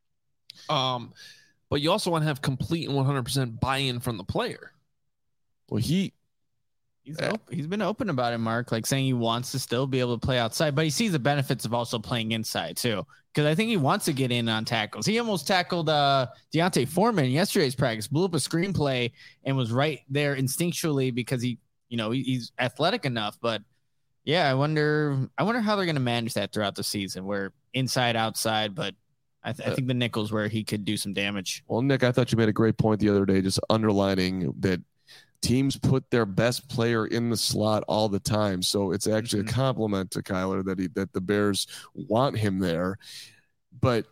Um, but you also want to have complete and one hundred percent buy-in from the player. Well, he He's op- he's been open about it, Mark, like saying he wants to still be able to play outside, but he sees the benefits of also playing inside too. Because I think he wants to get in on tackles. He almost tackled uh, Deontay Foreman in yesterday's practice, blew up a screenplay, and was right there instinctually because he, you know, he, he's athletic enough. But yeah, I wonder, I wonder how they're going to manage that throughout the season, where inside, outside. But I, th- I think the nickel's where he could do some damage. Well, Nick, I thought you made a great point the other day, just underlining that teams put their best player in the slot all the time. So it's actually mm-hmm. a compliment to Kyler that he, that the Bears want him there. But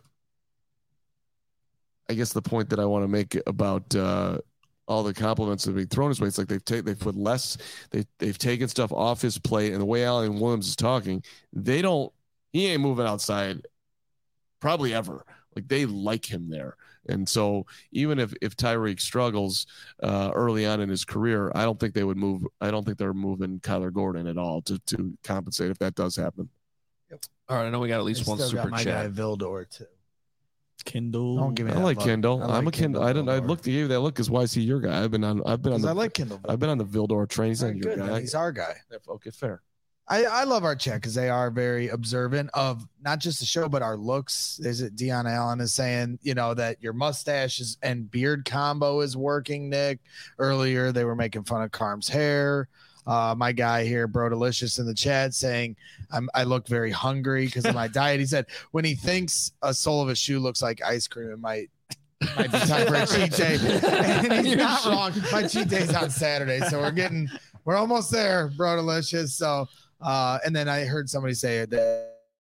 I guess the point that I want to make about uh, all the compliments that are being thrown his way, it's like they've taken, they've put less, they, they've taken stuff off his plate, and the way Alan Williams is talking, they don't, he ain't moving outside probably ever. Like they like him there. And so even if, if Tyreek struggles uh, early on in his career, I don't think they would move. I don't think they're moving Kyler Gordon at all to, to compensate if that does happen. Yep. All right. I know we got at least I one still super got my chat. guy Vildor too. Kindle. Don't give me I that like look. Kindle. I like I'm a Kindle. I didn't. I Vildor. looked at you. That look is why is he your guy? I've been on. I've been on. The, I like Kindle. I've been on the Vildor train. He's not Very your good, guy. man. He's our guy. Okay, fair. I, I love our chat because they are very observant of not just the show, but our looks. Is it Dion Allen is saying, you know, that your mustache is, and beard combo is working, Nick. Earlier, they were making fun of Carm's hair. Uh, my guy here, Bro Delicious, in the chat saying, I'm, I look very hungry because of my diet. He said, when he thinks a sole of a shoe looks like ice cream, it might might be time for a cheat day. And he's not wrong. My cheat day's on Saturday. So we're getting, we're almost there, Bro Delicious. So, Uh, and then I heard somebody say it that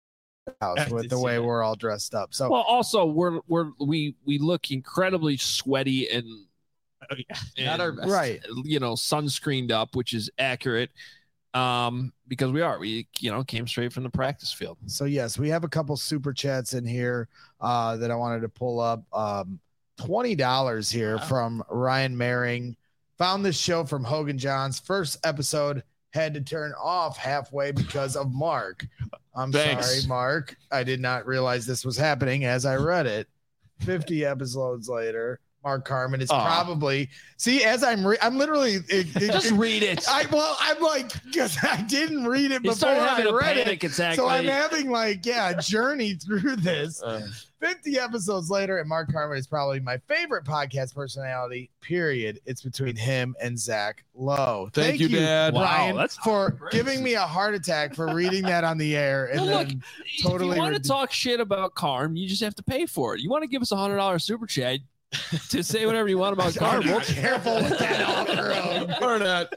house with the way it. we're all dressed up. So well, also we're we're we we look incredibly sweaty and, oh, yeah. and not our best. Right, you know, sunscreened up, which is accurate. Um, because we are we you know came straight from the practice field. So yes, we have a couple super chats in here uh, that I wanted to pull up. Um, twenty dollars here wow. from Ryan Maring. Found this show from Hogan Johns. First episode. Had to turn off halfway because of Mark. I'm Thanks. sorry, Mark. I did not realize this was happening as I read it. fifty episodes later, Mark Carman is Aww. probably see as I'm re- I'm literally it, it, just it, read it. I well I'm like because I didn't read it you before I read it, attack, so I'm like. having like yeah a journey through this. Uh. fifty episodes later, and Mark Carman is probably my favorite podcast personality. Period. It's between him and Zach Lowe. Thank, Thank you, Dad. Ryan, wow, that's for giving me a heart attack for reading that on the air. And well, then look, totally if you want re- to talk shit about Carm, you just have to pay for it. You want to give us a hundred dollar super chat to say whatever you want about Carm. We'll careful with that offer. Or not.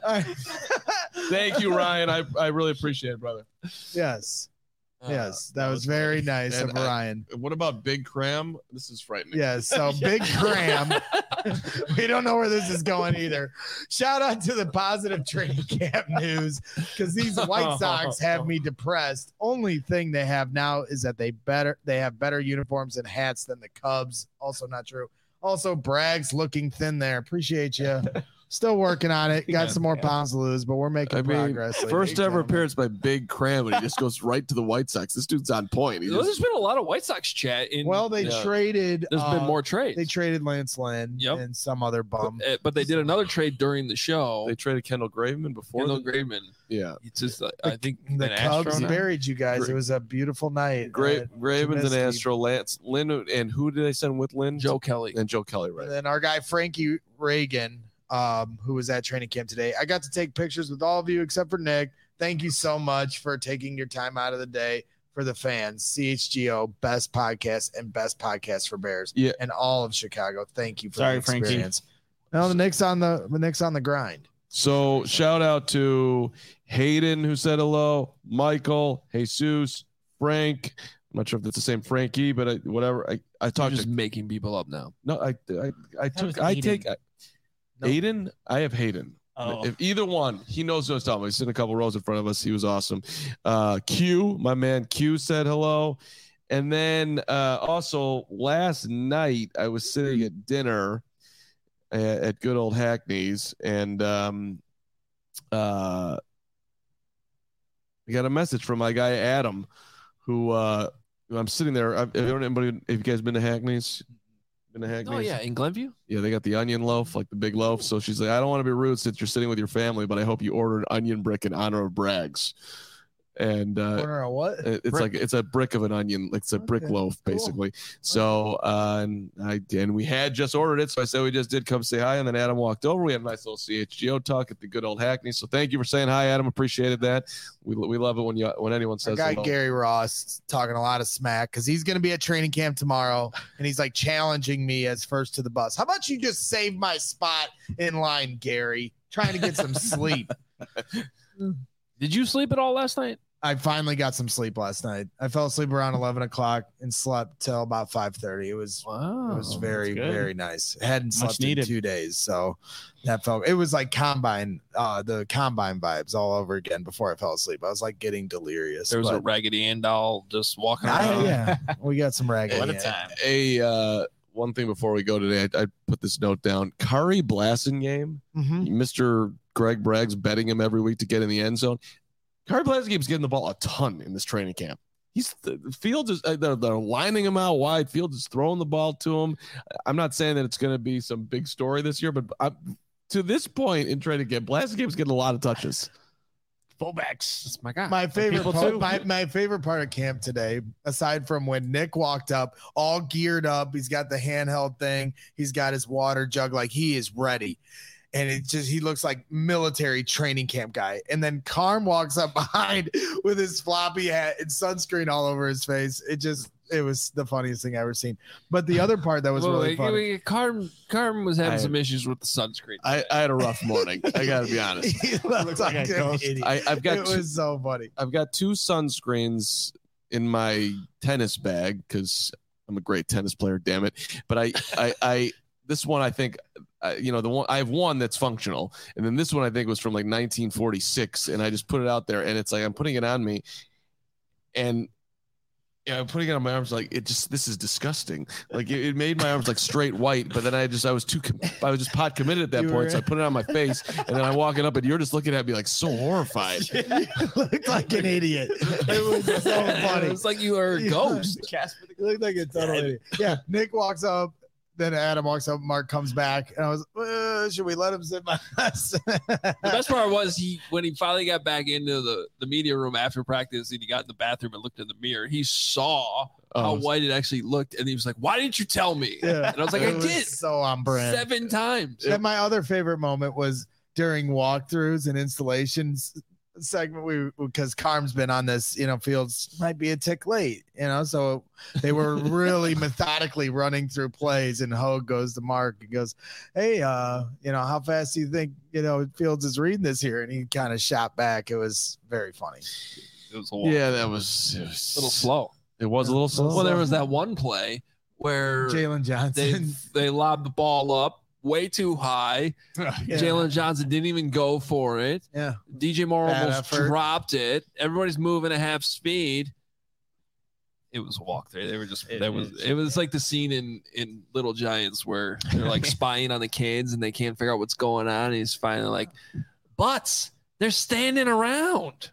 Thank you, Ryan. I, I really appreciate it, brother. Yes. Yes, that, that was, was very funny. nice And of I- Ryan. What about Big Cram? This is frightening. Yes, so Big Cram. We don't know where this is going either. Shout out to the positive training camp news because these White Sox have me depressed. Only thing they have now is that they better they have better uniforms and hats than the Cubs. Also not true. Also, Bragg's looking thin there. Appreciate you. Still working on it. Got Yeah. some more pounds to lose, but we're making I mean, progress. ladies first and ever gentlemen. appearance by Big Cram, and he just goes right to the White Sox. This dude's on point. He There's just, been a lot of White Sox chat. In, Well, they Yeah. traded. there's uh, been more trades. They traded Lance Lynn Yep. and some other bum. but, uh, but they did another trade during the show. they traded Kendall Graveman before. Kendall the- Graveman. yeah, It's just, uh, I think, The an Astro Cubs now. buried you guys. Gra- It was a beautiful night. Gra- Uh, Graveman's an Trubisky. Astro. Lance Lynn, and who did they send with Lynn? Joe Kelly. and Joe Kelly, right? And then our guy Frankie Reagan, um, who was at training camp today. I got to take pictures with all of you except for Nick. Thank you so much for taking your time out of the day for the fans. C H G O, best podcast and best podcast for Bears. Yeah. And all of Chicago. Thank you for Sorry, the Frankie. experience. No, the Nick's on the the Nick's on the grind. So shout out to Hayden who said hello, Michael, Jesus, Frank. I'm not sure if that's the same Frankie, but I, whatever. I, I You're talked just to making people up now. no, I I, I was took I Aiden. take I, No. Aiden. I have Hayden. Oh. If either one, he knows what I was talking about. He's sitting a couple rows in front of us. He was awesome. Uh, Q, my man Q said hello. And then uh, also last night I was sitting at dinner at, at good old Hackney's, and um, uh, I got a message from my guy Adam, who uh, I'm sitting there. Have anybody? Have you guys been to Hackney's? Been to Hackney's? Oh, yeah, in Glenview? Yeah, they got the onion loaf, like the big loaf. So she's like, I don't want to be rude since you're sitting with your family, but I hope you ordered onion brick in honor of Braggs. And uh, Corner of what? it- it's Brick. like it's a brick of an onion, like it's a brick Okay, loaf, cool. basically. So uh, and I and we had just ordered it, so I said we just did come say hi, and then Adam walked over. We had a nice little C H G O talk at the good old Hackney. So thank you for saying hi, Adam. Appreciated that. We we love it when you when anyone Our says guy hello. Gary Ross talking a lot of smack because he's going to be at training camp tomorrow, and he's like challenging me as first to the bus. How about you just save my spot in line, Gary? Trying to get some sleep. Did you sleep at all last night? I finally got some sleep last night. I fell asleep around eleven o'clock and slept till about five thirty. It was Wow. it was very good. very nice. Hadn't Much slept in needed. two days, so that felt. It was like combine, uh, the combine vibes all over again. Before I fell asleep, I was like getting delirious. There was a but- Raggedy Ann doll just walking I- around. yeah, we got some raggedy. What a Ann. time. A uh, one thing before we go today, I, I put this note down. Kari Blasingame. Mhm. Mister Greg Bragg's betting him every week to get in the end zone. Kari Blasinghame's getting the ball a ton in this training camp. He's the the Fields is uh, they're, they're lining him out wide. Fields is throwing the ball to him. I'm not saying that it's going to be some big story this year, but I, to this point in training camp, Blasingame's getting a lot of touches. Fullbacks. That's my guy. My favorite people part, too. my, my favorite part of camp today, aside from when Nick walked up, all geared up, he's got the handheld thing, he's got his water jug, like he is ready. And it just he looks like military training camp guy. And then Carm walks up behind with his floppy hat and sunscreen all over his face. It just it was the funniest thing I ever seen. But the other part that was Well, really wait, funny. wait, Carm, Carm was having I- some issues with the sunscreen. I, I had a rough morning. I got to be honest. He looked like like a an ghost. idiot. I, I've got It two, was so funny. I've got two sunscreens in my tennis bag because I'm a great tennis player. Damn it! But I I, I this one I think. Uh, you know, the one I have one that's functional, and then this one I think was from like nineteen forty-six, and I just put it out there, and it's like I'm putting it on me, and yeah, I'm putting it on my arms like it just this is disgusting. Like it, it made my arms like straight white, but then I just I was too com- I was just pot committed at that You point, were- so I put it on my face, and then I'm walking up, and you're just looking at me like so horrified. You looked like an idiot. It was so funny. It was like you were a Yeah. ghost. Casper the You look like a total idiot. Yeah, Nick walks up, then Adam walks up, Mark comes back, and I was, uh, should we let him sit by us? The best part was he when he finally got back into the, the media room after practice and he got in the bathroom and looked in the mirror, he saw how Oh. white it actually looked, and he was like, "Why didn't you tell me?" Yeah. And I was like, It "I was did so on brand. seven times." And my other favorite moment was during walkthroughs and installations segment. We because Carm's been on this, you know, Fields might be a tick late, you know, so they were really methodically running through plays, and Hogue goes to Mark and goes, "Hey, uh, you know, how fast do you think you know Fields is reading this here?" And he kind of shot back. It was very funny. It was a little, Yeah, that was, it was a little slow. It was a little slow. Well, there was that one play where Jalen they Johnson. they lobbed the ball up way too high. Yeah. Jalen Johnson didn't even go for it. Yeah. D J Moore Bad almost effort. dropped it. Everybody's moving at half speed. it was a walkthrough. They were just It that was is, it was like the scene in in Little Giants where they're like spying on the kids and they can't figure out what's going on. And he's finally like, butts, they're standing around.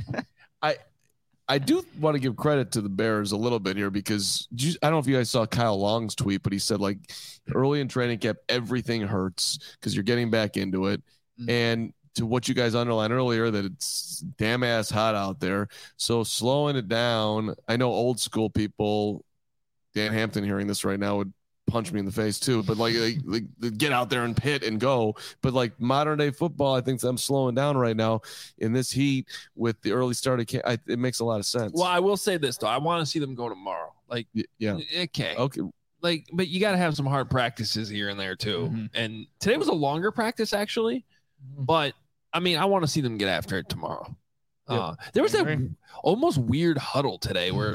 I do want to give credit to the Bears a little bit here because you, I don't know if you guys saw Kyle Long's tweet, but he said like early in training camp, everything hurts because you're getting back into it. Mm-hmm. And to what you guys underlined earlier, that it's damn ass hot out there. So slowing it down, I know old school people, Dan Hampton hearing this right now would punch me in the face too, but like, like, like get out there and pit and go. But like modern day football, I think I'm slowing down right now in this heat with the early start of camp. I, it makes a lot of sense. Well, I will say this though, I want to see them go tomorrow. Like, yeah, okay, okay, like, but you got to have some hard practices here and there too. Mm-hmm. And today was a longer practice actually, but I mean, I want to see them get after it tomorrow. Yep. Uh, there was that almost weird huddle today where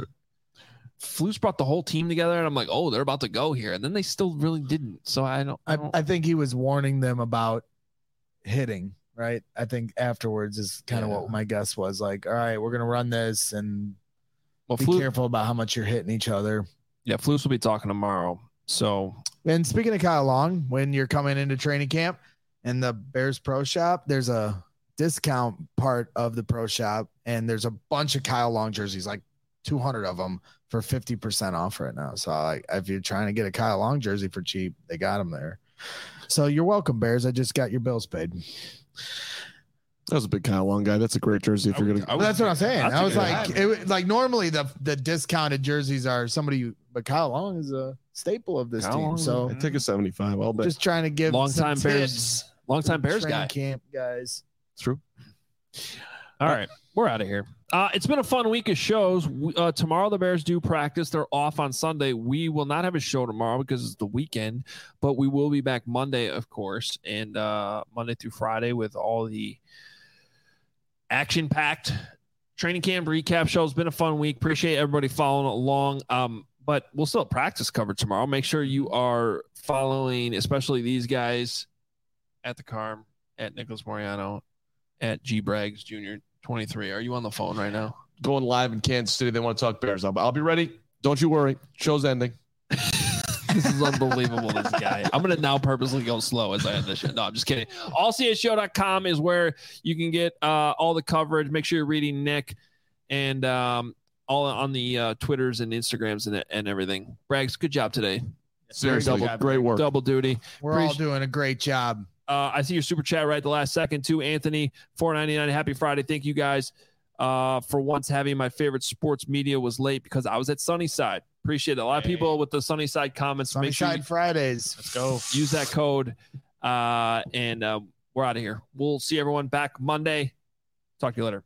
Flus brought the whole team together, and I'm like, oh, they're about to go here, and then they still really didn't. So I don't. I, don't... I, I think he was warning them about hitting. Right. I think afterwards is kind of yeah. what my guess was. Like, all right, we're gonna run this, and well, be Flus... careful about how much you're hitting each other. Yeah, Flus will be talking tomorrow. So, and speaking of Kyle Long, when you're coming into training camp in the Bears Pro Shop, there's a discount part of the Pro Shop, and there's a bunch of Kyle Long jerseys, like two hundred of them. For fifty percent off right now. So like, if you're trying to get a Kyle Long jersey for cheap, they got them there. So you're welcome, Bears. I just got your bills paid. That was a big Kyle Long guy. That's a great jersey. If you're gonna, well, that's what I'm saying. I was like, it, like normally the the discounted jerseys are somebody, but Kyle Long is a staple of this Kyle team. Long, so I take a seventy-five. I'll bet. Just trying to give long time Bears, long time Bears guy. Camp guys. It's true. All right, we're out of here. Uh, it's been a fun week of shows. Uh, tomorrow the Bears do practice. They're off on Sunday. We will not have a show tomorrow because it's the weekend, but we will be back Monday, of course, and uh, Monday through Friday with all the action-packed training camp recap show. It's been a fun week. Appreciate everybody following along. Um, but we'll still have practice covered tomorrow. Make sure you are following, especially these guys at the Carm, at Nicholas Moriano, at G Braggs Junior twenty-three. Are you on the phone right now? Going live in Kansas City. They want to talk Bears. I'll, I'll be ready. Don't you worry. Show's ending. This is unbelievable, this guy. I'm going to now purposely go slow as I end this shit. No, I'm just kidding. all c h show dot com is where you can get uh, all the coverage. Make sure you're reading Nick and um, all on the uh, Twitters and Instagrams and, and everything. Braggs, good job today. Seriously, double, great work. Double duty. We're Appreciate- all doing a great job. Uh, I see your super chat right at the last second too, Anthony. four ninety-nine. Happy Friday. Thank you guys uh, for once having my favorite sports media was late because I was at Sunnyside. Appreciate it. A lot hey. of people with the Sunnyside comments. Sunnyside Make sure Fridays. Let's go. Use that code. Uh, and uh, we're out of here. We'll see everyone back Monday. Talk to you later.